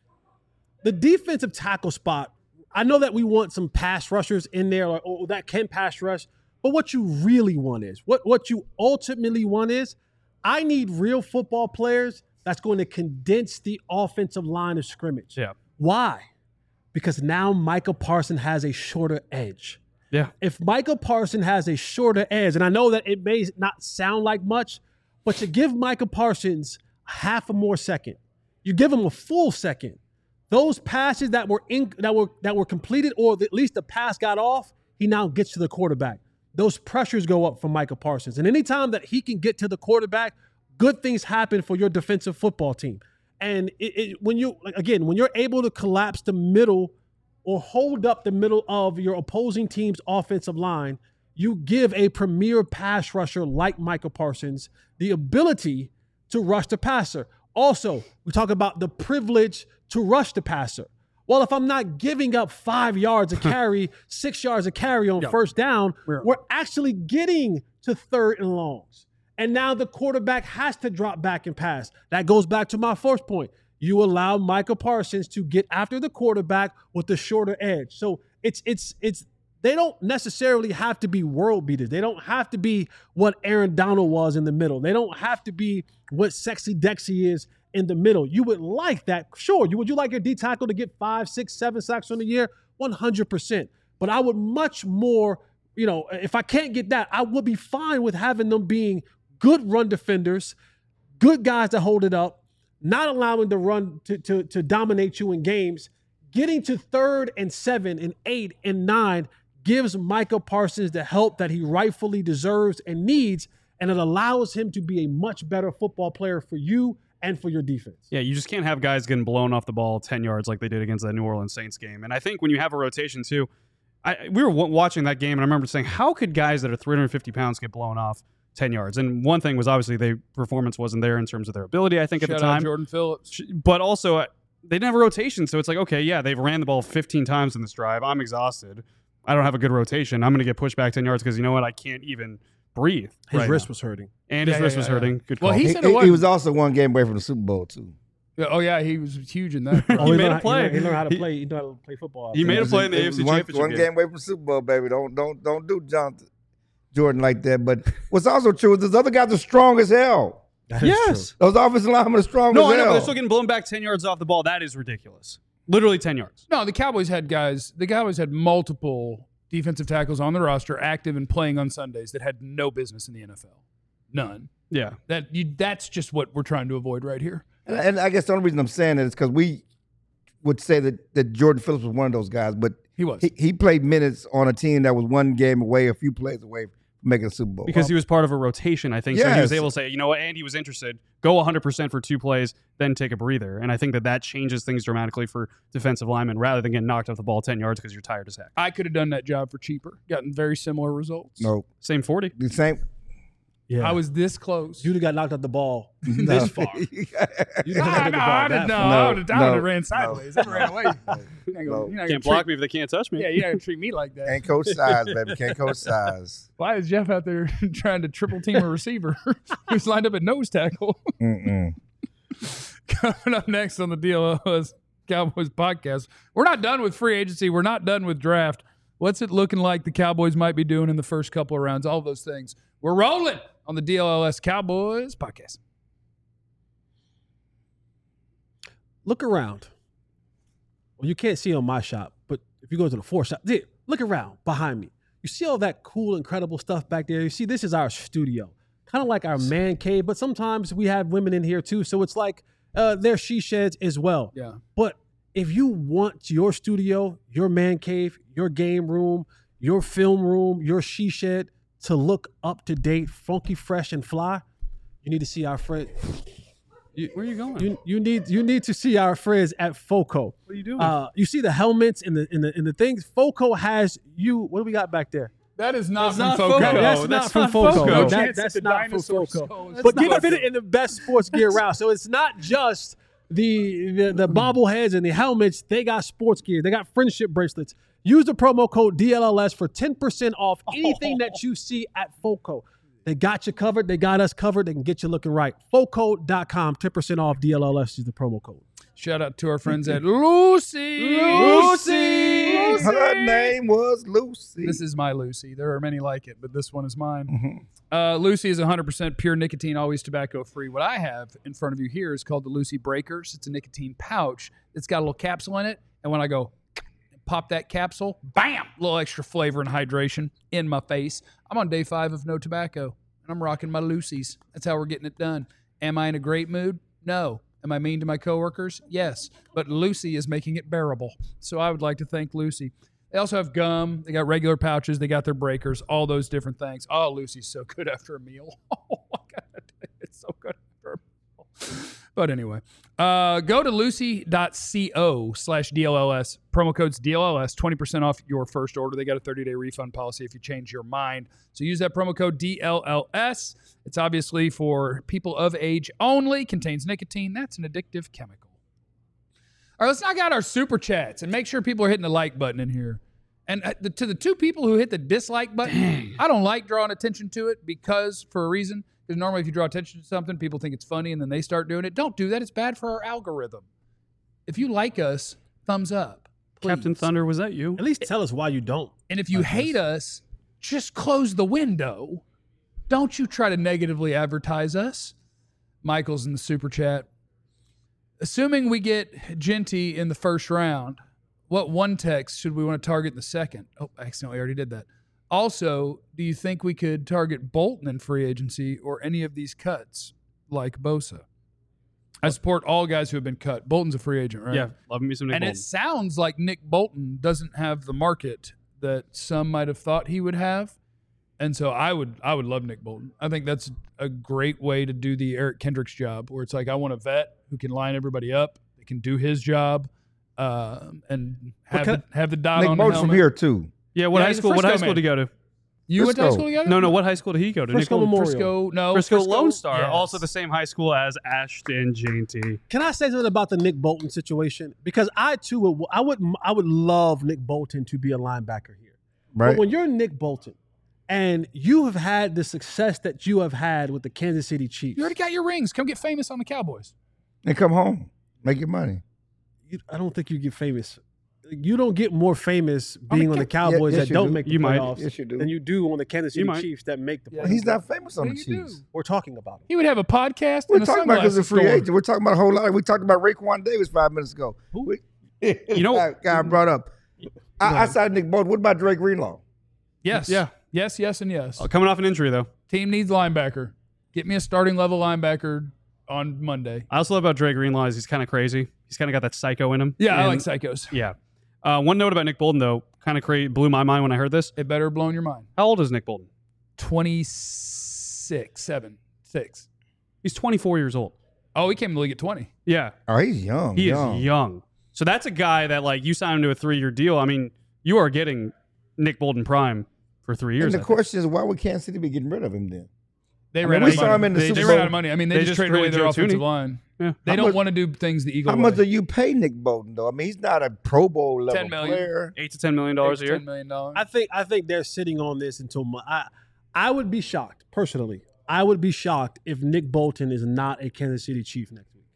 the defensive tackle spot, I know that we want some pass rushers in there, like, oh, that can pass rush. But what you really want is, what, what you ultimately want is, I need real football players that's going to condense the offensive line of scrimmage. Yeah. Why? Because now Micah Parsons has a shorter edge. Yeah. If Micah Parsons has a shorter edge, and I know that it may not sound like much, but you give Micah Parsons half a more second, you give him a full second. Those passes that were in, that were that were completed, or at least the pass got off, he now gets to the quarterback. Those pressures go up for Micah Parsons, and anytime that he can get to the quarterback, good things happen for your defensive football team. And it, it, when you like, again, when you're able to collapse the middle or hold up the middle of your opposing team's offensive line, you give a premier pass rusher like Micah Parsons the ability to rush the passer. Also, we talk about the privilege to rush the passer. Well, if I'm not giving up five yards a carry, six yards a carry on Yeah. first down, We're- we're actually getting to third and longs. And now the quarterback has to drop back and pass. That goes back to my first point. You allow Micah Parsons to get after the quarterback with the shorter edge. So it's it's it's they don't necessarily have to be world beaters. They don't have to be what Aaron Donald was in the middle. They don't have to be what Sexy Dexy is in the middle. You would like that. Sure. You would you like your D tackle to get five, six, seven sacks on the year? one hundred percent. But I would much more, you know, if I can't get that, I would be fine with having them being good run defenders, good guys that hold it up, not allowing the run to, to, to dominate you in games. Getting to third and seven and eight and nine gives Micah Parsons the help that he rightfully deserves and needs, and it allows him to be a much better football player for you and for your defense. Yeah, you just can't have guys getting blown off the ball ten yards like they did against that New Orleans Saints game. And I think when you have a rotation too, I, we were w- watching that game and I remember saying, how could guys that are three hundred fifty pounds get blown off ten yards? And one thing was obviously their performance wasn't there in terms of their ability, I think, at Shout the out time. Jordan Phillips. But also, uh, they didn't have a rotation. So it's like, okay, yeah, they've ran the ball fifteen times in this drive. I'm exhausted. I don't have a good rotation. I'm going to get pushed back ten yards because you know what? I can't even breathe. His right wrist now. was hurting. And Yeah, his yeah, wrist yeah, was yeah. hurting. Good Well, call. he He, said it he- he wasn't- was also one game away from the Super Bowl too. Yeah, oh, yeah, he was huge in that. Oh, made learned a how- play. He learned, he learned how to He- play. He knew how to play football. He made It a was- play in the it A F was C one, Championship one game. game away from the Super Bowl, baby. Don't don't don't do John Jordan like that. But what's also true is those other guys are strong as hell. That is Yes. true. Those offensive linemen are strong No, as I know, hell. but they're still getting blown back ten yards off the ball. That is ridiculous. Literally ten yards. No, the Cowboys had guys, the Cowboys had multiple defensive tackles on the roster active and playing on Sundays that had no business in the N F L. None. Yeah. That you, that's just what we're trying to avoid right here. And, and I guess the only reason I'm saying that is because we would say that, that Jordan Phillips was one of those guys, but He was. he, he played minutes on a team that was one game away, a few plays away from making a Super Bowl. Because he was part of a rotation, I think. So he was Yes. able to say, you know what, and he was interested. Go one hundred percent for two plays, then take a breather. And I think that that changes things dramatically for defensive linemen rather than getting knocked off the ball ten yards because you're tired as heck. I could have done that job for cheaper, gotten very similar results. no, Same forty. the same. Yeah. I was this close. You'd have got knocked out the ball No. this far. You'd have Ah, knocked no, the ball I that didn't know. far. No, I would have no, ran no. sideways. It ran away. You're not gonna, No. you're not gonna Can't block treat, me if they can't touch me. Yeah, you're not gonna treat me like that. Can't coach size, baby. Can't coach size. Why is Jeff out there trying to triple team a receiver who's lined up at nose tackle? Mm-mm. Coming up next on the D L L S Cowboys podcast, we're not done with free agency. We're not done with draft. What's it looking like the Cowboys might be doing in the first couple of rounds? All those things. We're rolling on the D L L S Cowboys podcast. Look around. Well, you can't see on my shop, but if you go to the fourth shop, there, look around behind me. You see all that cool, incredible stuff back there? You see, this is our studio, kind of like our man cave, but sometimes we have women in here too. So it's like uh, they're she sheds as well. Yeah. But if you want your studio, your man cave, your game room, your film room, your she shed to look up to date, funky, fresh, and fly, you need to see our friend. You, Where are you going? You you need you need to see our friends at Foco. What are you doing? Uh, you see the helmets and the in the in the things. Foco has you. What do we got back there? That is not That's from not Foco. Foco. That's, That's not from not Foco. Foco. No That- chance that's that the not from dinosaur Foco. skull is But not get Foco. fit it in the best sports gear round. So it's not just the, the the bobbleheads and the helmets. They got sports gear. They got friendship bracelets. Use the promo code D L L S for ten percent off anything that you see at Foco. They got you covered. They got us covered. They can get you looking right. Foco dot com, ten percent off D L L S is the promo code. Shout out to our friends at Lucy. Lucy. Her name was Lucy. This is my Lucy. There are many like it, but this one is mine. Uh, Lucy is one hundred percent pure nicotine, always tobacco free. What I have in front of you here is called the Lucy Breakers. It's a nicotine pouch. It's got a little capsule in it. And when I go pop that capsule, bam, a little extra flavor and hydration in my face. I'm on day five of no tobacco, and I'm rocking my Lucy's. That's how we're getting it done. Am I in a great mood? No. Am I mean to my coworkers? Yes. But Lucy is making it bearable. So I would like to thank Lucy. They also have gum. They got regular pouches. They got their breakers, all those different things. Oh, Lucy's so good after a meal. Oh, my God. It's so good after a meal. But anyway, uh, go to lucy.co slash DLLS. Promo code's D L L S, twenty percent off your first order. They got a thirty-day refund policy if you change your mind. So use that promo code D L L S. It's obviously for people of age only, contains nicotine. That's an addictive chemical. All right, let's knock out our super chats and make sure people are hitting the like button in here. And uh, the, to the two people who hit the dislike button, Dang. I don't like drawing attention to it because, for a reason, because normally if you draw attention to something, people think it's funny and then they start doing it. Don't do that. It's bad for our algorithm. If you like us, thumbs up. Please. Captain Thunder, was that you? At least tell us why you don't. And if you like hate this. us, just close the window. Don't you try to negatively advertise us. Michael's in the super chat. Assuming we get Genty in the first round, what one text should we want to target in the second? Oh, I accidentally already did that. Also, do you think we could target Bolton in free agency or any of these cuts like Bosa? I support all guys who have been cut. Bolton's a free agent, right? Yeah, love me some Nick And Bolton. it sounds like Nick Bolton doesn't have the market that some might have thought he would have. And so I would I would love Nick Bolton. I think that's a great way to do the Eric Kendricks job, where it's like I want a vet who can line everybody up, that can do his job, uh, and have the, have the dot Nick on the Bolton's helmet. from here too. Yeah, what Yeah, high he's a school? What Frisco high school man. did he go to? You went to high Frisco. school together? No, no. What high school did he go to? Frisco Nick Bolton? Memorial. Frisco, no. Frisco Lone Star, yes. also the same high school as Ashton Genty. Can I say something about the Nick Bolton situation? Because I too would I would I would love Nick Bolton to be a linebacker here. Right. But when you're Nick Bolton and you have had the success that you have had with the Kansas City Chiefs, You already got your rings. Come get famous on the Cowboys. And come home. Make your money. you, I don't think you get famous. You don't get more famous I mean, being on the Cowboys yes, that you don't do. make the You might. playoffs Yes, you do. than you do on the Kansas You City might. Chiefs that make the Yeah. playoffs. He's not famous on Yeah, the you Chiefs. do. We're talking about him. He would have a podcast We're and a talking about because sunglasses of free store. agent. We're talking about a whole lot. We talked about Raekwon Davis five minutes ago. We, You know- guy, guy brought up. I, I saw Nick Bolton. What about Drake Greenlaw? Yes. Yeah. Yes, yes, and yes. Uh, coming off an injury, though. Team needs linebacker. Get me a starting level linebacker on Monday. I also love about Dre Greenlaw is he's kind of crazy. He's kind of got that psycho in him. Yeah, I And- like psychos. Yeah. Uh, one note about Nick Bolton, though, kind of cra- blew my mind when I heard this. It better have blown your mind. How old is Nick Bolton? twenty-six, seven, six. He's twenty-four years old. Oh, he came to the league at twenty. Yeah. Oh, he's young. He young. is young. So that's a guy that, like, you sign him to a three-year deal. I mean, you are getting Nick Bolton prime for three years. And the I think. question is, why would Kansas City be getting rid of him then? They I ran mean, out we of saw money. him in the they, Super they ran Bowl. out of money. I mean, they, They just just traded away traded their Joe offensive Thuney. line. Yeah. They How don't much- want to do things the Eagle How way. much do you pay Nick Bolton though? I mean, he's not a Pro Bowl level ten million. player. Eight to ten million dollars a year. ten million dollars. I think I think they're sitting on this until Mo- I I would be shocked personally. I would be shocked if Nick Bolton is not a Kansas City Chief next week.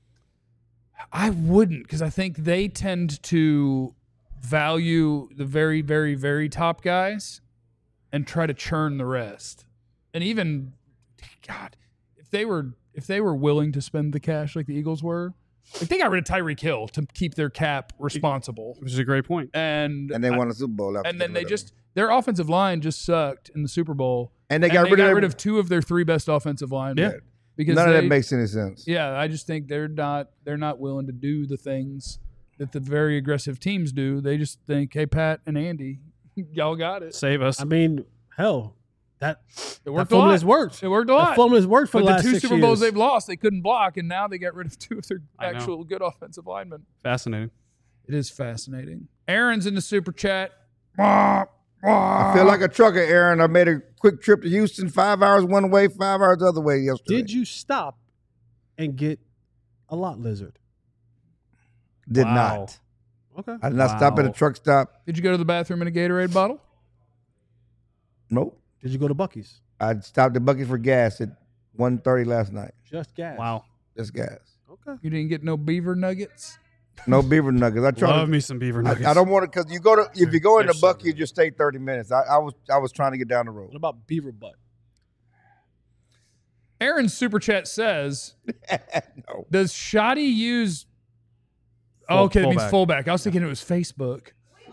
I wouldn't, because I think they tend to value the very, very, very top guys and try to churn the rest. And even, God, if they were if they were willing to spend the cash like the Eagles were, like they got rid of Tyreek Hill to keep their cap responsible, Which is a great point. and And they I- won a Super Bowl after and then getting they rid of just him. their offensive line just sucked in the Super Bowl, and they and got, they rid, got of rid of two of their three best offensive linemen. Yeah. because None of they, that makes any sense. Yeah, I just think they're not they're not willing to do the things that the very aggressive teams do. They just think, hey, Pat and Andy, y'all got it. Save us. I mean, hell, That It that worked a formula's lot. worked. It worked a That lot. formula's worked for But the the last two six Super Bowls years. they've lost, they couldn't block, and now they got rid of two of their I know. actual good offensive linemen. Fascinating. It is fascinating. Aaron's in the super chat. I feel like a trucker, Aaron. I made a quick trip to Houston, five hours one way, five hours the other way yesterday. Did you stop and get a lot lizard? Did Wow. not. Okay. I did not stop at a Wow. truck stop. Did you go to the bathroom in a Gatorade bottle? Nope. Did you go to Buc-ee's? I stopped at Buc-ee's for gas at one thirty last night. Just gas. Wow. Just gas. Okay. You didn't get no beaver nuggets? No beaver nuggets. I try Love to, me some beaver nuggets. I, I don't want to because you go to if you go into They're so Buc-ee's, you good. just stay thirty minutes. I, I was I was trying to get down the road. What about beaver butt? Aaron's super chat says, No. does Shoddy use Full- oh, okay, that means fullback. fullback. I was thinking it was Facebook.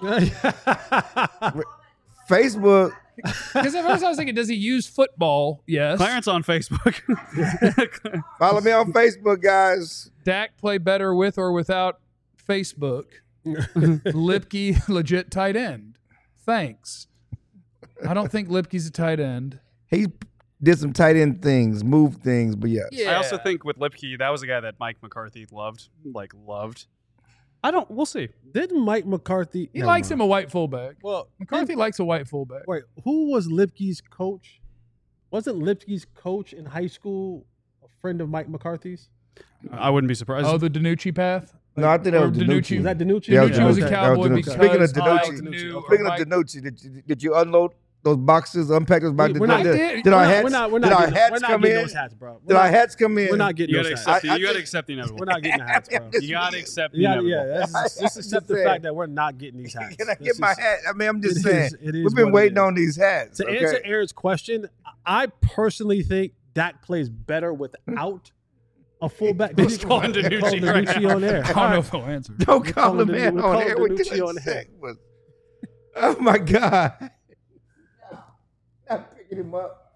Facebook. Because at first I was thinking, does he use football? Yes. Clarence on Facebook. Follow me on Facebook, guys. Dak play better with or without Facebook. Lipke legit tight end. Thanks. I don't think Lipke's a tight end. He did some tight end things, moved things, but yes. Yeah. I also think with Lipke, that was a guy that Mike McCarthy loved, like loved. I don't. We'll see. Didn't Mike McCarthy? he Never likes mind. him a white fullback. Well, McCarthy likes a white fullback. Wait, who was Lipke's coach? Wasn't Lipke's coach in high school a friend of Mike McCarthy's? I wouldn't be surprised. Oh, the Danucci path? No, I think that Or was Danucci. Danucci. Is that Danucci? Yeah, Danucci was a okay. Cowboy That was because Danucci. Speaking of Mike Danucci, knew- Speaking Mike- of Danucci, did you, did you unload those boxes, unpack those boxes? We're not- did, I did. did our We're not- hats, we're not, we're did not our getting, hats we're not come getting in? those hats, bro. We're Did not, our hats come in? We're not getting you those gotta hats. accept. I- the, I you gotta think- accept the inevitable. We're not getting the hats, bro. You gotta accept the You gotta, inevitable. yeah, let's, let's accept the saying. fact that we're not getting these hats. Can I This get my is- hat? I mean, I'm just it saying. is- it is We've been what it waiting is. on these hats. To okay? answer Aaron's question, I personally think Dak plays better without a fullback. Let's call him Danucci Call right Danucci now. on air. I don't know if he'll answer. Don't We're call him calling in Danucci- on we're air. calling What did Danucci I on say? air. Was- Oh my God! Not picking him up.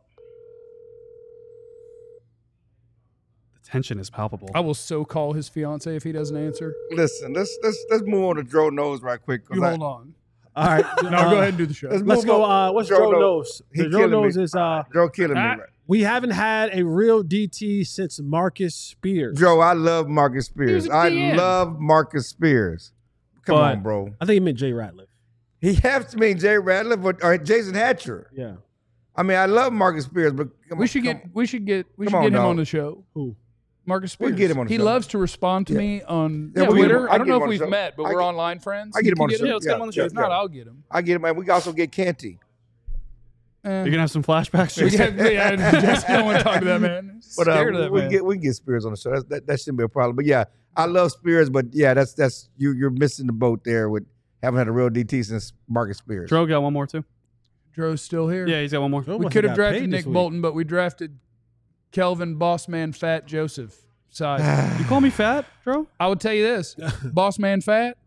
The tension is palpable. I will so call his fiance if he doesn't answer. Listen, let's let's let's move on to Dro Nose right quick. 'cause You I- hold on. All right. No, uh, go ahead and do the show. let's Let's move go. on. Uh, what's Joe Joe Nose. knows? He Joe killing knows me. is uh, Joe killing me. Ah. Right. we haven't had a real D T since Marcus Spears. Joe, I love Marcus Spears. He was a I D M. love Marcus Spears. Come But- on, bro. I think he meant Jay Ratliff. He has to mean Jay Ratliff or, or Jason Hatcher. Yeah. I mean, I love Marcus Spears, but come We on, should come get we should get we Come should on, get him dog. on the show. Who? Marcus Spears. We'll get him on the he show. loves to respond to Yeah. me on Yeah, we'll get him Twitter. on- I don't I'll know get him if on the we've show. met, but I we're get- online friends. I get him on the You show. Yeah, let's get him on the show. If not, I'll get him. I get him, man. We can also get Canty. Eh. You're gonna have some flashbacks. We Jason? have, yeah, Jesse don't want to talk to that man. But uh, Scared of that we man. can get we can get Spears on the show. That's, that that shouldn't be a problem. But yeah, I love Spears, but yeah, that's that's you you're missing the boat there with haven't had a real D T since Marcus Spears. Dro got one more too. Dro's still here. Yeah, he's got one more. Joe we must could have got drafted paid Nick this week. Bolton, but we drafted Kelvin Bossman Fat Joseph side. You call me fat, Dro? I would tell you this: Bossman Fat,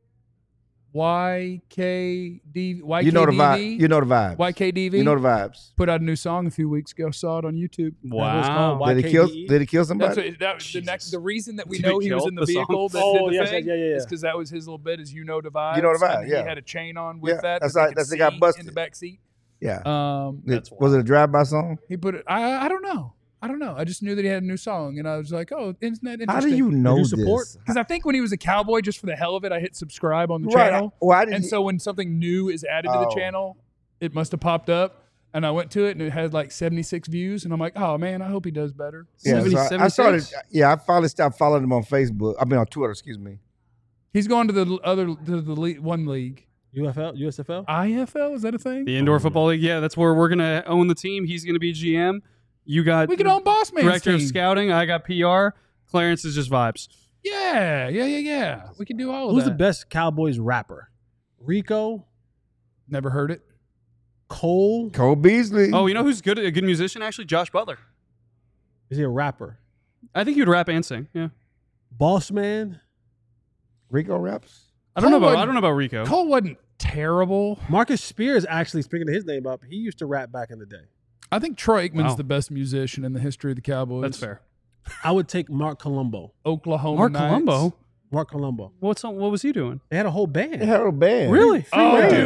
Y K D Y K D V, You know the vibe. You know the vibes. Y K D V. You know the vibes. Put out a new song a few weeks ago. Saw it on YouTube. was called Wow. Y- Did he kill? Y K D E? Did he kill That's somebody? what, that was the Jesus. next. The reason that we Did know he he was kill in the the song? vehicle that Oh, did the yes, thing yeah, yeah, yeah. is because that was his little bit. Is you know the vibes. You know the and vibe, yeah. He had a chain on with Yeah, that. that's that right, they that's could they got see busted. in the back seat. Yeah. Um, It- That's was it a drive-by song? he put it. I I don't know. I don't know. I just knew that he had a new song, and I was like, oh, isn't that interesting? How do you know you this? support? Because I think when he was a cowboy, just for the hell of it, I hit subscribe on the Right. channel. Why did And you- so when something new is added to the Oh. channel, it must have popped up. And I went to it, and it had like seventy-six views. And I'm like, oh, man, I hope he does better. Yeah, so I, I seventy-six? started. Yeah, I finally stopped following him on Facebook. I mean on Twitter. Excuse me. He's going to the other, to the le- one league. U F L, U S F L. I F L, is that a thing? The indoor football league. Yeah, that's where we're gonna own the team. He's gonna be G M. You got We could own Boss Man's director of team. scouting. I got P R. Clarence is just vibes. Yeah, yeah, yeah, yeah. We can do all of Who's that. the best Cowboys rapper? Rico, Never heard it. Cole. Cole Beasley. Oh, you know who's good? A good musician, actually, Josh Butler. Is he a rapper? I think he would rap and sing. Yeah. Boss Man. Rico raps. I don't know Cole about. wasn't- I don't know about Rico. Cole wasn't terrible. Marcus Spears, actually, speaking of his name up, he used to rap back in the day. I think Troy Aikman's Wow. the best musician in the history of the Cowboys. That's fair. I would take Mark Colombo. Oklahoma Mark Knights. Colombo. Mark Colombo. What's what was he doing? They had a whole band. They had a band. Really? Oh, Yeah. dude.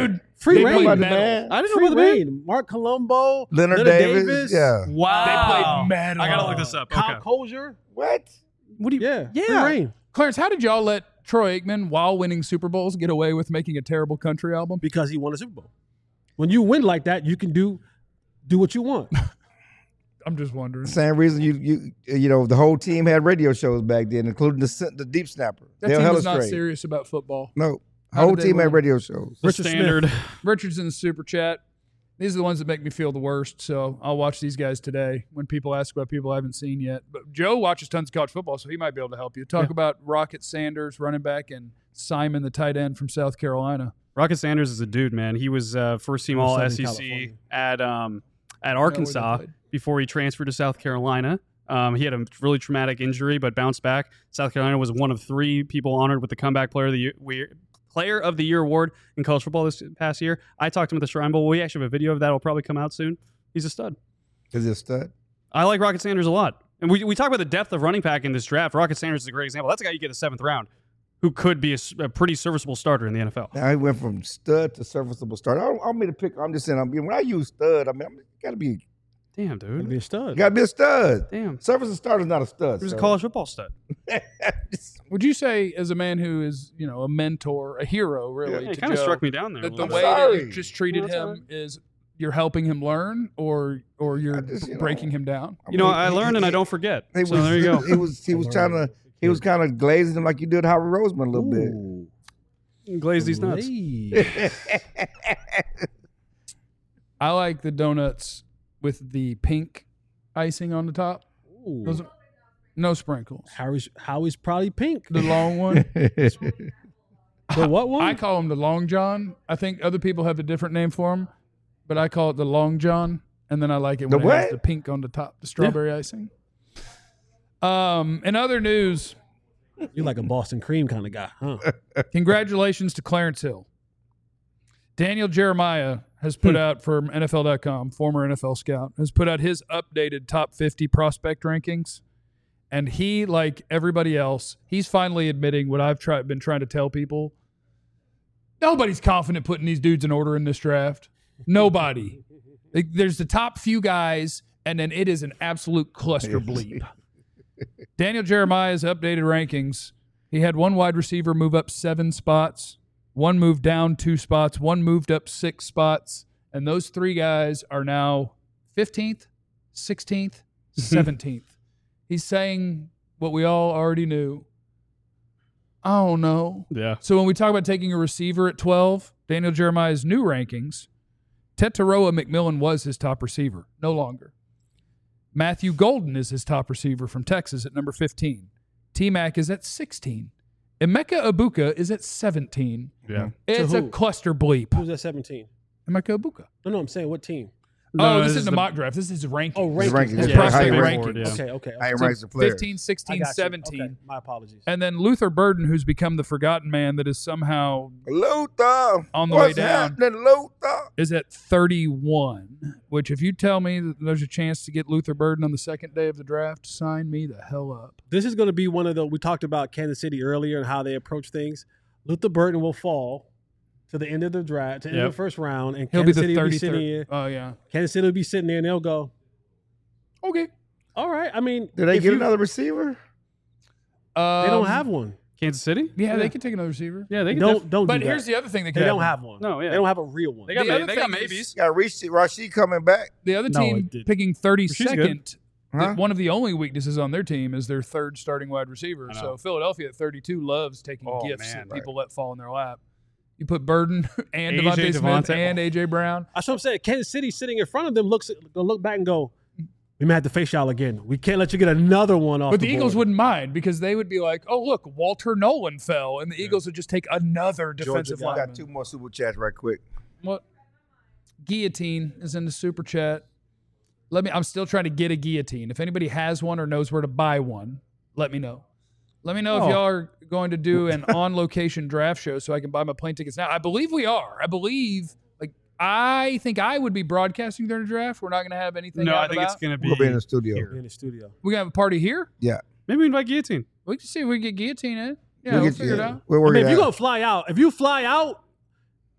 Free They reign. played About the metal. man. I didn't Free know about the reign. Mark Colombo, Leonard, Davis. Yeah. Wow. They played metal. I gotta look this up. Kyle Okay. Kozier. What? What do you? Yeah. Yeah. Free reign. Clarence, how did y'all let Troy Aikman, while winning Super Bowls, get away with making a terrible country album? Because he won a Super Bowl. When you win like that, you can do do what you want. I'm just wondering. Same reason you you you know the whole team had radio shows back then, including the the deep snapper. That Dale team was not Hellestrade. serious about football. No, How whole did they team had win? radio shows. The Richard standard. Richard's in the super chat. These are the ones that make me feel the worst, so I'll watch these guys today when people ask about people I haven't seen yet. But Joe watches tons of college football, so he might be able to help you. Talk Yeah. about Rocket Sanders, running back, and Simon, the tight end from South Carolina. Rocket Sanders is a dude, man. He was uh, first team From All Southern S E C California. at um, at they Arkansas played. before he transferred to South Carolina. Um, he had a really traumatic injury, but bounced back. South Carolina was one of three people honored with the Comeback Player of the Year, we- Player of the Year award in college football this past year. I talked to him at the Shrine Bowl. We actually have a video of that. Will probably come out soon. He's a stud. Is he a stud? I like Rocket Sanders a lot. And we, we talk about the depth of running back in this draft. Rocket Sanders is a great example. That's a guy you get a seventh round who could be a, s- a pretty serviceable starter in the N F L. Now he went from stud to serviceable start. I don't, I don't mean to pick. I'm just saying. I mean, when I use stud, I mean, I'm, got to be, Damn, Gotta dude. be a stud. got to be a stud. Damn. Serviceable starter is not a stud. He was a sir. college football stud. Would you say, as a man who is, you know, a mentor, a hero, really, Yeah, to he kind of Joe, struck me down there. a that the little way bit. that sorry. you just treated No, that's all him is you're helping him learn, or or you're I just, you know, breaking him down? I You know, mean, I he- learned and I he- don't forget. He So was, there you go. He was he was trying to he was kind of glazing him like you did Howard Roseman a little Ooh. Glaze these nuts. Hey. bit. I like the donuts with the pink icing on the top. Ooh. Those are, no sprinkles. Howie's, Howie's probably pink. The long one. The what one? I call him the Long John. I think other people have a different name for him, but I call it the Long John. And then I like it when The it has what? the pink on the top, the strawberry icing. Um, in other news, You're like a Boston cream kind of guy, huh? congratulations to Clarence Hill. Daniel Jeremiah has put out from N F L dot com, former N F L scout, has put out his updated top fifty prospect rankings. And he, like everybody else, he's finally admitting what I've tried, been trying to tell people. Nobody's confident putting these dudes in order in this draft. Nobody. Like, there's the top few guys, and then it is an absolute cluster bleep. Daniel Jeremiah's updated rankings. He had one wide receiver move up seven spots, one moved down two spots, one moved up six spots, and those three guys are now fifteenth, sixteenth, seventeenth. He's saying what we all already knew. I don't know. Yeah. So when we talk about taking a receiver at twelve, Daniel Jeremiah's new rankings, Tetaroa McMillan was his top receiver, no longer. Matthew Golden is his top receiver from Texas at number fifteen. T-Mac is at sixteen. Emeka Ibuka is at seventeen. Yeah. It's a who? cluster bleep. Who's at seventeen? Emeka Ibuka. No, no, I'm saying what team? Oh, No, this this is is the the- mock draft. This is his ranking. Oh, His rankings. rankings, Okay, yeah, okay, prospect okay. rankings. Yeah. Okay, okay. I ain't okay. ranks the player. fifteen, I sixteen, got you. seventeen. Okay, my apologies. And then Luther Burden, who's become the forgotten man that is somehow Luther. On the What's way down. happening, Luther? is at thirty-one, which if you tell me that there's a chance to get Luther Burden on the second day of the draft, sign me the hell up. This is going to be one of the. We talked about Kansas City earlier and how they approach things. Luther Burton will fall to the end of the draft, to the end Yep. of the first round, and He'll Kansas be City the will be sitting thirty-third. here. Oh, yeah. Kansas City will be sitting there, and they'll go, Okay. "All right." I mean, Did they if get you- another receiver? Um, They don't have one. Kansas City? Yeah, Yeah. they could take another receiver. Yeah, they can Don't def- don't. But do here's that. the other thing they could They have. don't have one. No, yeah. They don't have a real one. They got, The ma- other they got thing is- maybes. Got Rashid, Rashid coming back. The other No, team it didn't. picking She's thirty-second, Huh? that one of the only weaknesses on their team is their third starting wide receiver. I know. So Philadelphia at thirty-two loves taking Oh, gifts man, that people let fall in their lap. You put Burden and A J Devontae Smith Devontae. and A J Brown. That's what I'm saying. Kansas City sitting in front of them looks gonna look back and go, "We may have to face y'all again. We can't let you get another one off." But the, the Eagles board." wouldn't mind because they would be like, oh, look, Walter Nolan fell. And the Eagles would just take another defensive Georgia lineman. got two more super chats right quick. What? Guillotine is in the super chat. Let me. I'm still trying to get a guillotine. If anybody has one or knows where to buy one, let me know. Let me know Oh. if y'all are going to do an on-location draft show so I can buy my plane tickets now. I believe we are. I believe. Like I think I would be broadcasting during the draft. We're not going to have anything. No, out I think about. it's going to be. We'll be in the studio. here. in the studio. We're gonna have a party here. Yeah. Maybe we invite Guillotine. We can see if we can get guillotine in. Yeah, We'll we'll get figure you- it out. We'll I work mean, it if you're out. gonna fly out, if you fly out,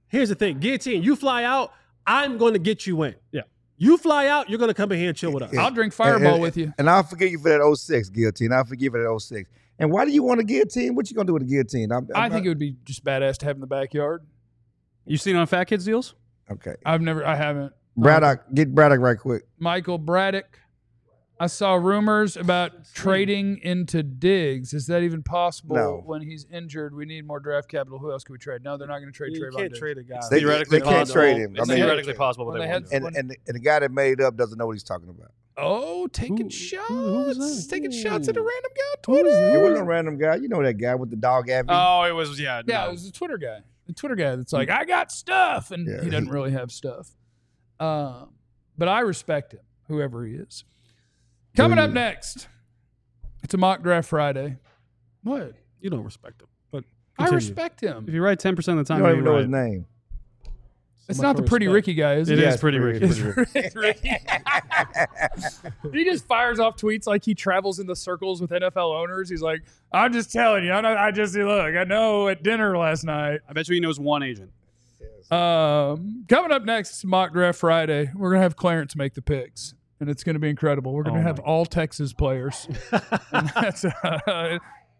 Here's the thing. Guillotine, you fly out, I'm going to get you in. Yeah. You fly out, you're going to come in here and chill with us. I'll drink Fireball and, and, with you. And I'll forgive you for that oh six guillotine. I'll forgive you for that oh six. And why do you want a guillotine? What you going to do with a guillotine? I'm, I'm I think not, it would be just badass to have in the backyard. You seen it on Fat Kids Deals? Okay. I've never, I haven't. Braddock, get Braddock right quick. Michael Braddock. I saw rumors about trading into Diggs. Is that even possible No. when he's injured? We need more draft capital. Who else can we trade? No, they're not going to trade You Trayvon can't Diggs. trade a guy. They- Theoretically they can't possible. trade him. I It's mean- theoretically possible, but When they they won't had- do it. And, and, and the guy that made it up doesn't know what he's talking about. Oh, taking Who- shots. who was that? Taking shots at a random guy on Who was Twitter. that? It wasn't a random guy. You know that guy with the dog Abby. Oh, it was, yeah. Yeah, no. it was a Twitter guy. The Twitter guy that's like, I got stuff. And Yeah. he doesn't really have stuff. Um, but I respect him, whoever he is. Coming up next, it's a mock draft Friday. What? You don't respect him. But I continue. respect him. If you're right ten percent of the you time, don't even you're know right. his name. It's much not the for pretty respect. Ricky guy, is It it? is Yeah, it's pretty pretty Ricky. Ricky. It's Ricky. He just fires off tweets like he travels in the circles with N F L owners. He's like, I'm just telling you. I, know, I just look. I know at dinner last night. I bet you he knows one agent. Um, coming up next, it's Mock Draft Friday. We're gonna have Clarence make the picks, and it's gonna be incredible. We're gonna Oh have my all Texas players. And that's, uh,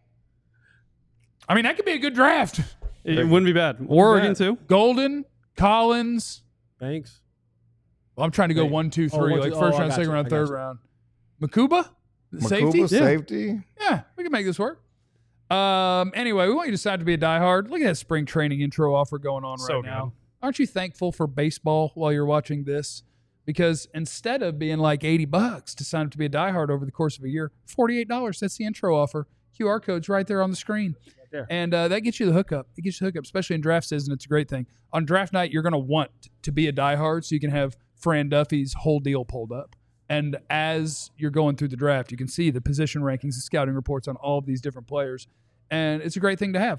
I mean, that could be a good draft. It wouldn't be bad. Oregon, Yeah. too. Golden, Collins. Thanks. Well, I'm trying to go Wait. one, two, Oh, three, one, like two- first oh, I round, got second you. round, I got third you. round. Makuba, safety. Makuba, Yeah. safety. Yeah, we can make this work. Um, anyway, we want you to decide to be a diehard. Look at that spring training intro offer going on So right now. good. Aren't you thankful for baseball while you're watching this? Because instead of being like eighty bucks to sign up to be a diehard over the course of a year, forty-eight dollars. That's the intro offer. Q R code's right there on the screen. there. And uh, that gets you the hookup. It gets you the hookup, especially in draft season. It's a great thing. On draft night, you're going to want to be a diehard so you can have Fran Duffy's whole deal pulled up. And as you're going through the draft, you can see the position rankings, the scouting reports on all of these different players. And it's a great thing to have.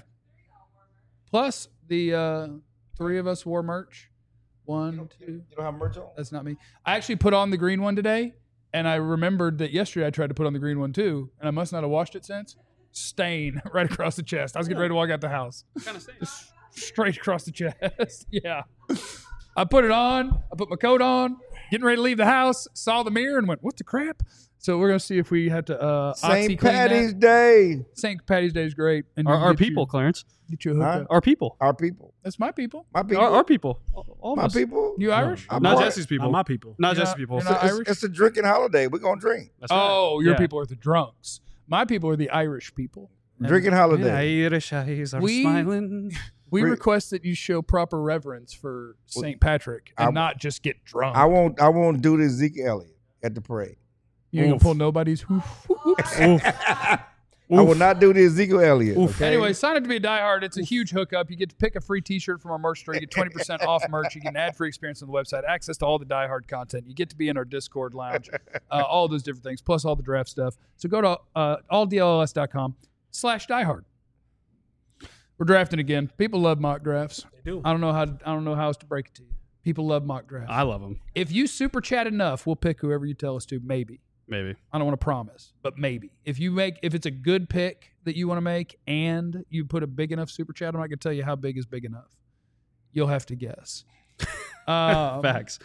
Plus, the uh, three of us wore merch. One, two. You don't have merch on? That's not me. I actually put on the green one today, and I remembered that yesterday I tried to put on the green one too, and I must not have washed it since. Stain right across the chest. I was getting ready to walk out the house. Kind of same. Just straight across the chest. Yeah. I put it on. I put my coat on. Getting ready to leave the house. Saw the mirror and went, "What the crap?" So we're gonna see if we have to uh, Saint Oxy clean that. Patty's Day. Saint Patty's Day is great. And Our, you our get people, You, Clarence. get you a Huh? hookup. Our people. Our people. That's my people. My people. Our, our people. All of my us. people. You Irish? I'm Not part- Jesse's people. Not my people. Not You're Jesse's not- people. you're not It's, Irish? it's a drinking holiday. We're going to drink. That's right. Oh, your Yeah. people are the drunks. My people are the Irish people. And Drinking holiday. Irish eyes are We- smiling. We Re- request that you show proper reverence for Saint Patrick and I- not just get drunk. I won't I won't do this Zeke Elliott at the parade. you ain't gonna Oof. pull nobody's whoop, whoop, whoops. I will not do the Ezekiel Elliott. Okay? Anyway, sign up to be a diehard. It's a huge hookup. You get to pick a free T-shirt from our merch store. You get twenty percent off merch. You get an ad-free experience on the website, access to all the diehard content. You get to be in our Discord lounge, uh, all those different things, plus all the draft stuff. So go to uh, all D L L S dot com slash diehard. We're drafting again. People love mock drafts. They do. I don't know how. I don't know how else to break it to you. People love mock drafts. I love them. If you super chat enough, we'll pick whoever you tell us to. Maybe. Maybe. I don't want to promise, but maybe. If you make, if it's a good pick that you want to make, and you put a big enough super chat, I'm not gonna tell you how big is big enough. You'll have to guess. Um, Facts.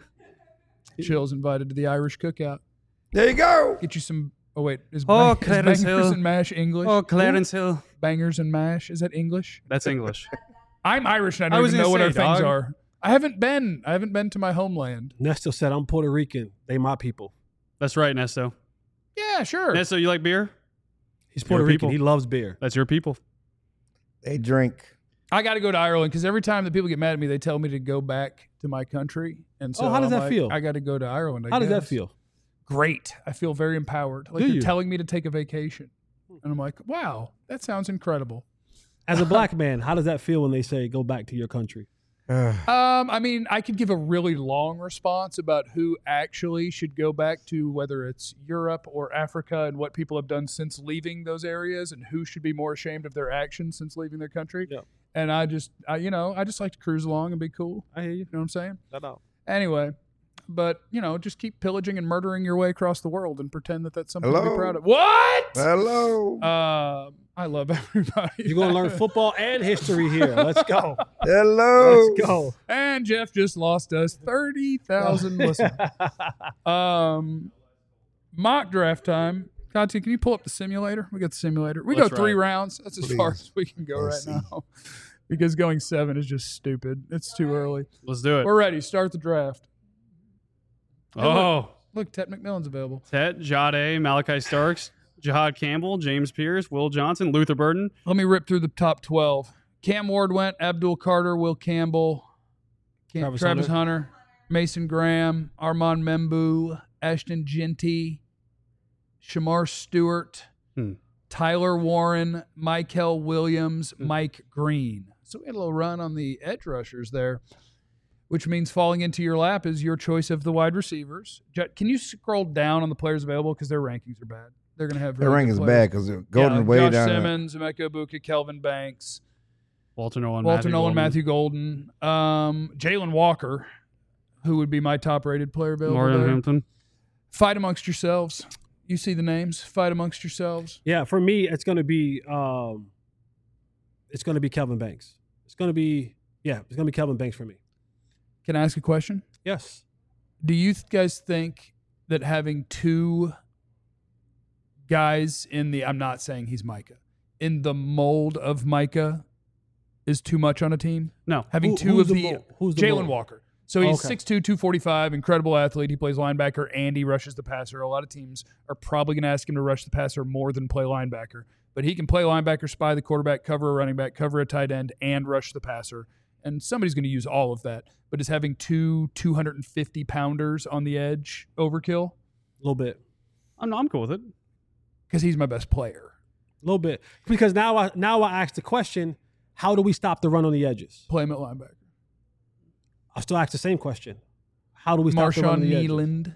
Chill's invited to the Irish cookout. There you go. Get you some. Oh wait, is, Oh, bang, is Clarence bangers Hill. and mash English? Oh, Clarence Hill. Bangers and mash. Is that English? That's English. I'm Irish and I I don't was even know gonna what say, our things dog. are. I haven't been. I haven't been to my homeland. Nesto said, I'm Puerto Rican. They my people. That's right, Nesto. Yeah, sure. Nesto, you like beer? He's Puerto Your Rican. people. He loves beer. That's your people. They drink. I got to go to Ireland because every time that people get mad at me, they tell me to go back to my country. And so Oh, how does I'm that like, feel? I got to go to Ireland. I How does that guess. feel? Great. I feel very empowered. Like Do they're you? telling me to take a vacation. And I'm like, wow, that sounds incredible. As a black man, how does that feel when they say go back to your country? Um, I mean, I could give a really long response about who actually should go back to whether it's Europe or Africa and what people have done since leaving those areas and who should be more ashamed of their actions since leaving their country. Yep. And I just, I, you know, I just like to cruise along and be cool. I hear you. You know what I'm saying? Shout out. Anyway, but, you know, just keep pillaging and murdering your way across the world and pretend that that's something to Hello? be proud of. What? Hello. Uh, I love everybody. You're going to learn football and history here. Let's go. Hello. Let's go. And Jeff just lost us thirty thousand listeners. Um, mock draft time. Conti, can you pull up the simulator? We got the simulator. We Let's go three ride. rounds. That's as far Please. as we can go Let's right see. now. Because going seven is just stupid. It's too early. Let's do it. We're ready. Start the draft. Oh, Look, Ted McMillan's available. Tet, Jade, Malachi Starks, Jahad Campbell, James Pierce, Will Johnson, Luther Burden. Let me rip through the top twelve. Cam Ward went, Abdul Carter, Will Campbell, Cam, Travis Travis, Hunter. Hunter. Mason Graham, Armand Membu, Ashton Genty, Shamar Stewart, Hmm. Tyler Warren, Michael Williams, Hmm. Mike Green. So we had a little run on the edge rushers there, which means falling into your lap is your choice of the wide receivers. J- Can you scroll down on the players available because their rankings are bad? They're going to have Their really rank good is players. bad because Golden yeah, way Josh down. there. Simmons, Emeka Ibuka, Kelvin Banks, Walter Nolan, Walter Matthew Nolan, Golden, Matthew Golden, um, Jalen Walker, who would be my top-rated player available. Morgan there. Hampton. Fight amongst yourselves. You see the names. Fight amongst yourselves. Yeah, for me, it's going to be um, it's going to be Kelvin Banks. It's going to be yeah, it's going to be Kelvin Banks for me. Can I ask a question? Yes. Do you th- guys think that having two guys in the, I'm not saying he's Micah, in the mold of Micah is too much on a team? No. Having Who- two who's of the the, mold? Who's the Jalen mold? Walker. So he's Okay. six two, two forty-five, incredible athlete. He plays linebacker and he rushes the passer. A lot of teams are probably going to ask him to rush the passer more than play linebacker. But he can play linebacker, spy the quarterback, cover a running back, cover a tight end, and rush the passer. And somebody's going to use all of that. But is having two two hundred fifty pounders on the edge overkill? A little bit. I'm, I'm cool with it. Because he's my best player. A little bit. Because now I now I ask the question, how do we stop the run on the edges? Play him at linebacker. I'll still ask the same question. How do we stop the run on Marshawn the edges? Neeland.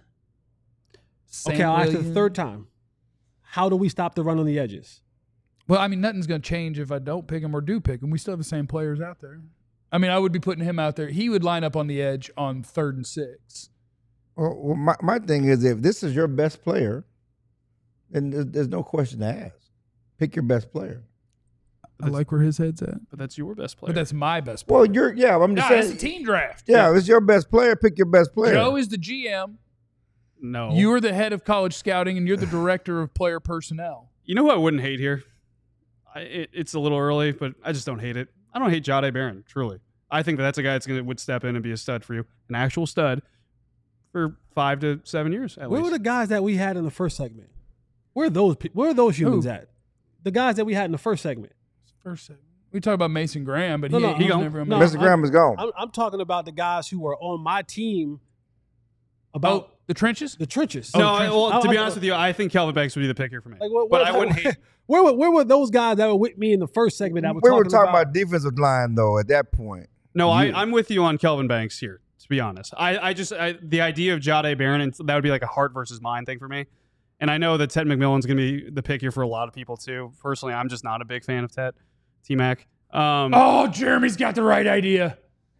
Okay, I'll ask it the third time. How do we stop the run on the edges? Well, I mean, nothing's going to change if I don't pick him or do pick him. We still have the same players out there. I mean, I would be putting him out there. He would line up on the edge on third and six. Well, well, my, my thing is, if this is your best player, then there's, there's no question to ask. Pick your best player. I like where his head's at. But that's your best player. But that's my best player. Well, you're yeah. I'm just Nah, it's saying. a team draft. Yeah, if it's your best player. Pick your best player. Joe is the G M. no. You're the head of college scouting, and you're the director of player personnel. You know who I wouldn't hate here? I, it, it's a little early, but I just don't hate it. I don't hate Jahdae Barron, truly. I think that that's a guy that's gonna would step in and be a stud for you, an actual stud, for five to seven years at Where least. were the guys that we had in the first segment? Where are those pe- where are those humans Who? at? The guys that we had in the first segment. First segment. We talk about Mason Graham, but No, he, no, he was gone. never on No, Mason. Mister Graham is gone. I'm, I'm talking about the guys who were on my team Oh, about the trenches? the trenches. no, I, well, I- to be I- honest with you, I think Kelvin Banks would be the pick here for me. Like, what- but what- I wouldn't hate. Where were where were those guys that were with me in the first segment that were we talking, were talking about? about defensive line though. At that point, No, I, You- I'm with you on Kelvin Banks here. To be honest, I, I just I, the idea of Jahdae Barron, and that would be like a heart versus mind thing for me. And I know that Ted McMillan's going to be the pick here for a lot of people too. Personally, I'm just not a big fan of Ted T Mac. Um, Oh, Jeremy's got the right idea.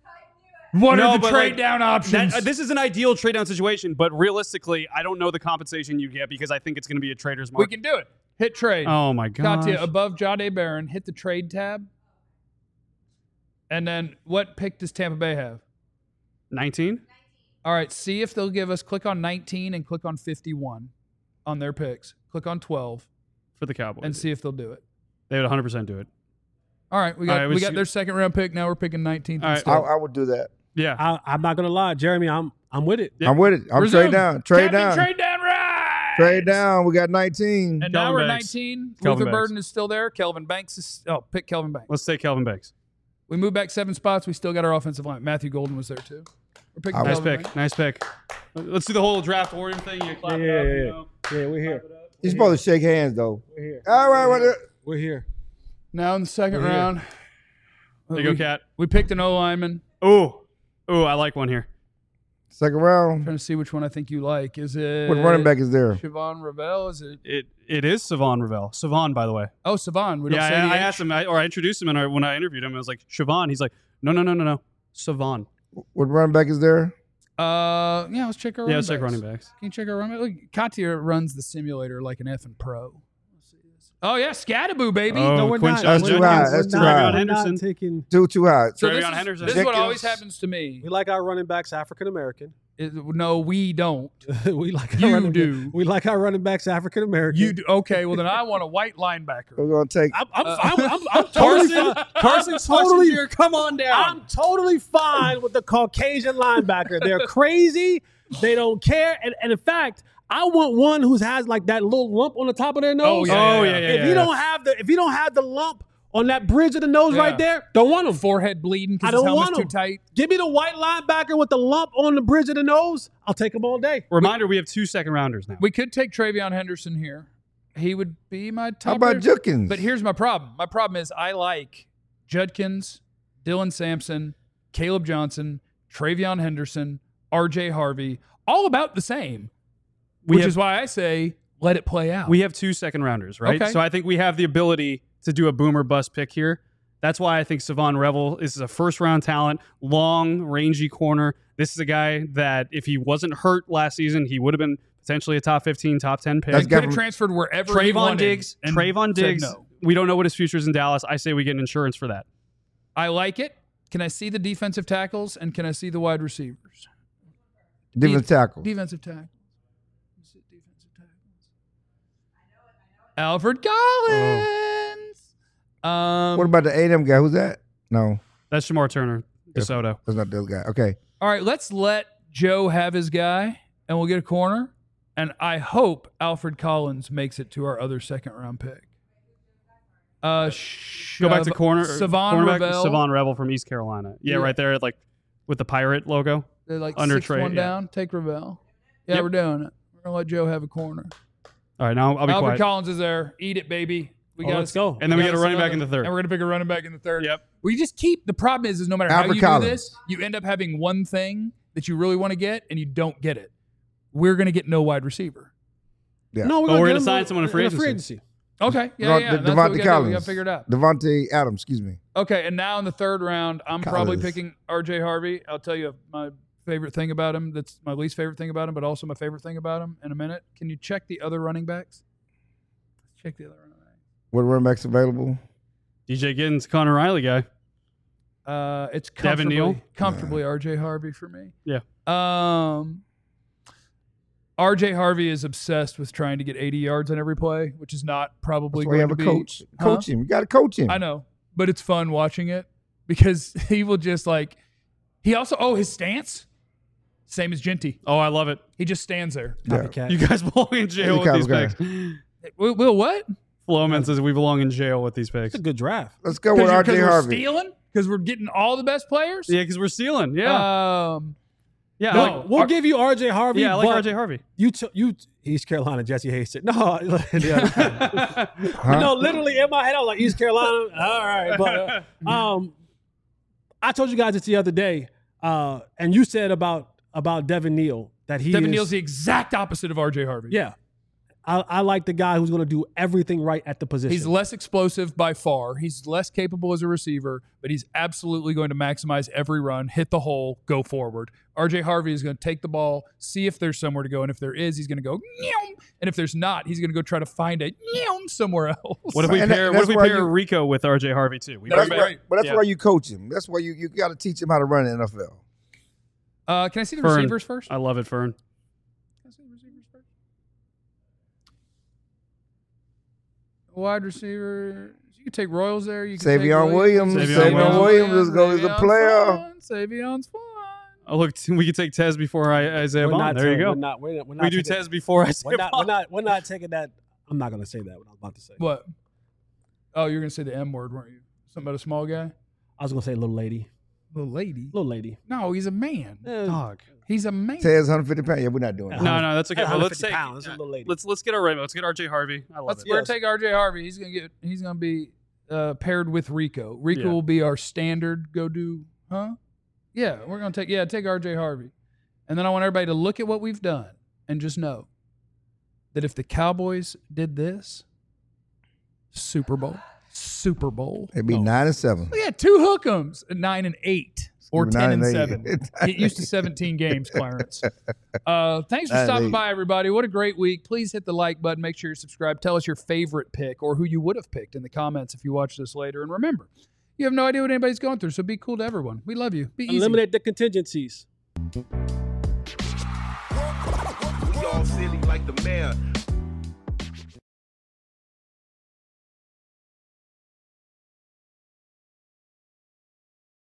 What No, are the but, trade like, down options? That, uh, this is an ideal trade down situation, but realistically, I don't know the compensation you get because I think it's going to be a trader's we market. can do it. Hit trade. Oh my god! Katya, above Jahdae Barron, hit the trade tab. And then what pick does Tampa Bay have? nineteen. All right, see if they'll give us, click on nineteen and click on fifty-one on their picks. Click on twelve For the Cowboys, and see if they'll do it. they would one hundred percent do it. All right, we got All right, we we got see- their second round pick. Now we're picking nineteenth. All right. instead. I, I would do that. Yeah, I, I'm not gonna lie, Jeremy. I'm I'm with it. Yeah. I'm with it. I'm Resume. trade down. Trade Captain down. Trade down, right? Trade down. We got nineteen. And now Kelvin we're Banks. nineteen. Kelvin Luther Banks. Burden is still there. Kelvin Banks is oh, pick Kelvin Banks. let's take Kelvin Banks. We moved back seven spots. We still got our offensive line. Matthew Golden was there too. We're picking Nice Nice Kelvin pick. Banks. Nice pick. Let's do the whole draft order thing. You clap Yeah, it yeah, up, yeah, you yeah. know. Yeah, we're here. You're supposed to shake hands though. We're here. All right. Well, We're here. Now in the second We're here. round, There you we, go, Cat. we picked an O lineman. Ooh, ooh, I like one here. second round. Trying to see which one I think you like. Is it What running back is there? Siobhan Ravel? Is it It it is Savon Ravel. Savon, by the way. oh Savon? We don't Yeah, say I, the I H. asked him, I, or I introduced him, and I, when I interviewed him, I was like, Siobhan. He's like, no, no, no, no, no, Savon. What running back is there? Uh, yeah, let's check our Yeah, running let's check backs. running backs. Can you check our running backs? Look, Katia runs the simulator like an effing pro. Let's see this. Oh, yeah, Scattaboo, baby. Oh, No, we're Quinshon not. That's We're too not. high. We're That's too not. high. We're not Henderson. taking. Too too high. So Trevion this is, Henderson. this is what Jenkins. always happens to me. We like our running backs African American. It- no, we don't. we like our You running do. We like our running backs African American. You do. Okay, well, then I want a white linebacker. We're gonna take. I'm, I'm, Uh, I'm, I'm, I'm totally Carson, fine. Carson I'm totally, Schlesinger, come on down. I'm totally fine with the Caucasian linebacker. They're crazy. They don't care. And, and in fact, I want one who has like that little lump on the top of their nose. yeah, oh, yeah, yeah, yeah. if yeah, you yeah. don't have the if you don't have the lump on that bridge of the nose Yeah. right there, don't want him. Forehead bleeding I because his don't helmet's want too him. tight. Give me the white linebacker with the lump on the bridge of the nose. I'll take him all day. Reminder, we have two second rounders now. We could take Trevion Henderson here. He would be my top. How about rated- Judkins? But here's my problem. My problem is I like Judkins, Dylan Sampson, Caleb Johnson, Trevion Henderson, R J Harvey, all about the same, We which have- is why I say let it play out. We have two second rounders, right? Okay. So I think we have the ability to do a boomer bust pick here. That's why I think Savon Revel is a first round talent, long, rangy corner. This is a guy that if he wasn't hurt last season, he would have been potentially a top fifteen, top ten pick. That's He got- could have transferred wherever he Trayvon wanted Diggs, and Trayvon said Diggs. no. We don't know what his future is in Dallas. I say we get an insurance for that. I like it. Can I see the defensive tackles and can I see the wide receivers? Different tackle. Defensive tackles. Let's see defensive tackles. Alfred Collins. Um, What about the A and M guy? Who's that? No, That's Shamar Turner, DeSoto. that's not this guy. Okay. all right, let's let Joe have his guy, and we'll get a corner. And I hope Alfred Collins makes it to our other second round pick. Uh, Go back to Shav- corner. Savon cornerback, Revel. Savon Revel from East Carolina. Yeah, Yeah. right there, like with the pirate logo. They're like under six Trey, one yeah. down. Take Ravel. Yeah, Yep. we're doing it. We're gonna let Joe have a corner. All right, now I'll be Alfred quiet. Collins is there. Eat it, baby. We Oh, got let's go. And then we gotta get a running see back in the another- therd. And we're gonna pick a running back in the third. Yep. We just keep the problem is is no matter how Alfred you Collins. do this, you end up having one thing that you really want to get and you don't get it. We're gonna get no wide receiver. Yeah. No, we're Oh, gonna, we're get gonna him sign in- someone in free agency. Okay. Yeah, Devon- yeah. De- That's what we Devontae gotta do. We Collins. gotta figure it out. Devontae Adams. Excuse me. Okay, and now in the third round, I'm probably Collins. picking R J Harvey. I'll tell you my favorite thing about him. That's my least favorite thing about him, but also my favorite thing about him in a minute. Can you check the other running backs? Let's check the other running backs. What running backs available? D J Giddens, Connor Riley guy. Uh, it's Devin comfortably, Neal? comfortably R J Harvey for me. Yeah. Um, R J Harvey is obsessed with trying to get eighty yards on every play, which is not probably That's why you going have to a be. coach. Huh? Coach him. You got to coach him. I know, but it's fun watching it because he will just like. He also oh his stance, same as Genty. Oh, I love it. He just stands there. Yeah. Copycat. You guys belong in jail He's a with these cowboy picks. Will, Will what? Flowman says we belong in jail with these picks. It's a good draft. Let's go with R J we're Harvey. stealing because we're getting all the best players. Yeah, because we're stealing. Yeah. Um. yeah. No, I like, we'll give you R J Harvey. yeah, I like but R J Harvey. You, t- you, East Carolina, Jesse Hayes. No, yeah. Huh? no, literally in my head, I was like East Carolina. All right, but uh, um, I told you guys this the other day, uh, and you said about about Devin Neal that he Devin is, Neal's the exact opposite of R J Harvey. yeah. I, I like the guy who's going to do everything right at the position. He's less explosive by far. He's less capable as a receiver, but he's absolutely going to maximize every run, hit the hole, go forward. R J Harvey is going to take the ball, see if there's somewhere to go, and if there is, he's going to go, Meow. And if there's not, he's going to go try to find it Meow, somewhere else. What if we And that- pair? What that's if we why pair you- Rico with R J Harvey too? We That's That's bring why, right. but that's Yeah. why you coach him. That's why you, you got to teach him how to run in the N F L. Uh, can I see the Fern. receivers first? I love it, Fern. Can I see the receivers first? Wide receiver. You can take Royals there. You can Savion take Williams. Savion Savion Williams is going to Savion's player. fun. Savion's fun. Oh look, we could take Tez before I, Isaiah We're Bond. not There you ta- go. We're not, we're not, we're not we do taking- Tez before We're Isaiah not, we're Bond. not. We're not taking that. I'm not going to say that. What I was about to say. What? Oh, you're going to say the M word, weren't you? Something about a small guy? I was going to say little lady. Little lady. Little lady. No, he's a man. Eh, Dog. He's a man. Tez one hundred fifty pounds. Yeah, we're not doing that. No, no, that's okay. At Well, let's 150 take. pounds, yeah, a little lady. Let's let's get our right. Let's get R J Harvey. I love Let's it. we're Yes. gonna take R J Harvey. He's gonna get. He's gonna be uh, paired with Rico. Rico Yeah. will be our standard go do. Huh? Yeah, we're gonna take. Yeah, take R J Harvey, and then I want everybody to look at what we've done and just know that if the Cowboys did this, Super Bowl, Super Bowl. It'd be nine and seven. We had two hook'ems, nine and eight. Or Nine ten and and eight. seven. Get used to seventeen games, Clarence. Uh, thanks for Nine and stopping eight. by, everybody. What a great week. Please hit the like button. Make sure you're subscribed. Tell us your favorite pick or who you would have picked in the comments if you watch this later. And remember, you have no idea what anybody's going through, so be cool to everyone. We love you. Be easy. Eliminate the contingencies. We all silly like the mayor.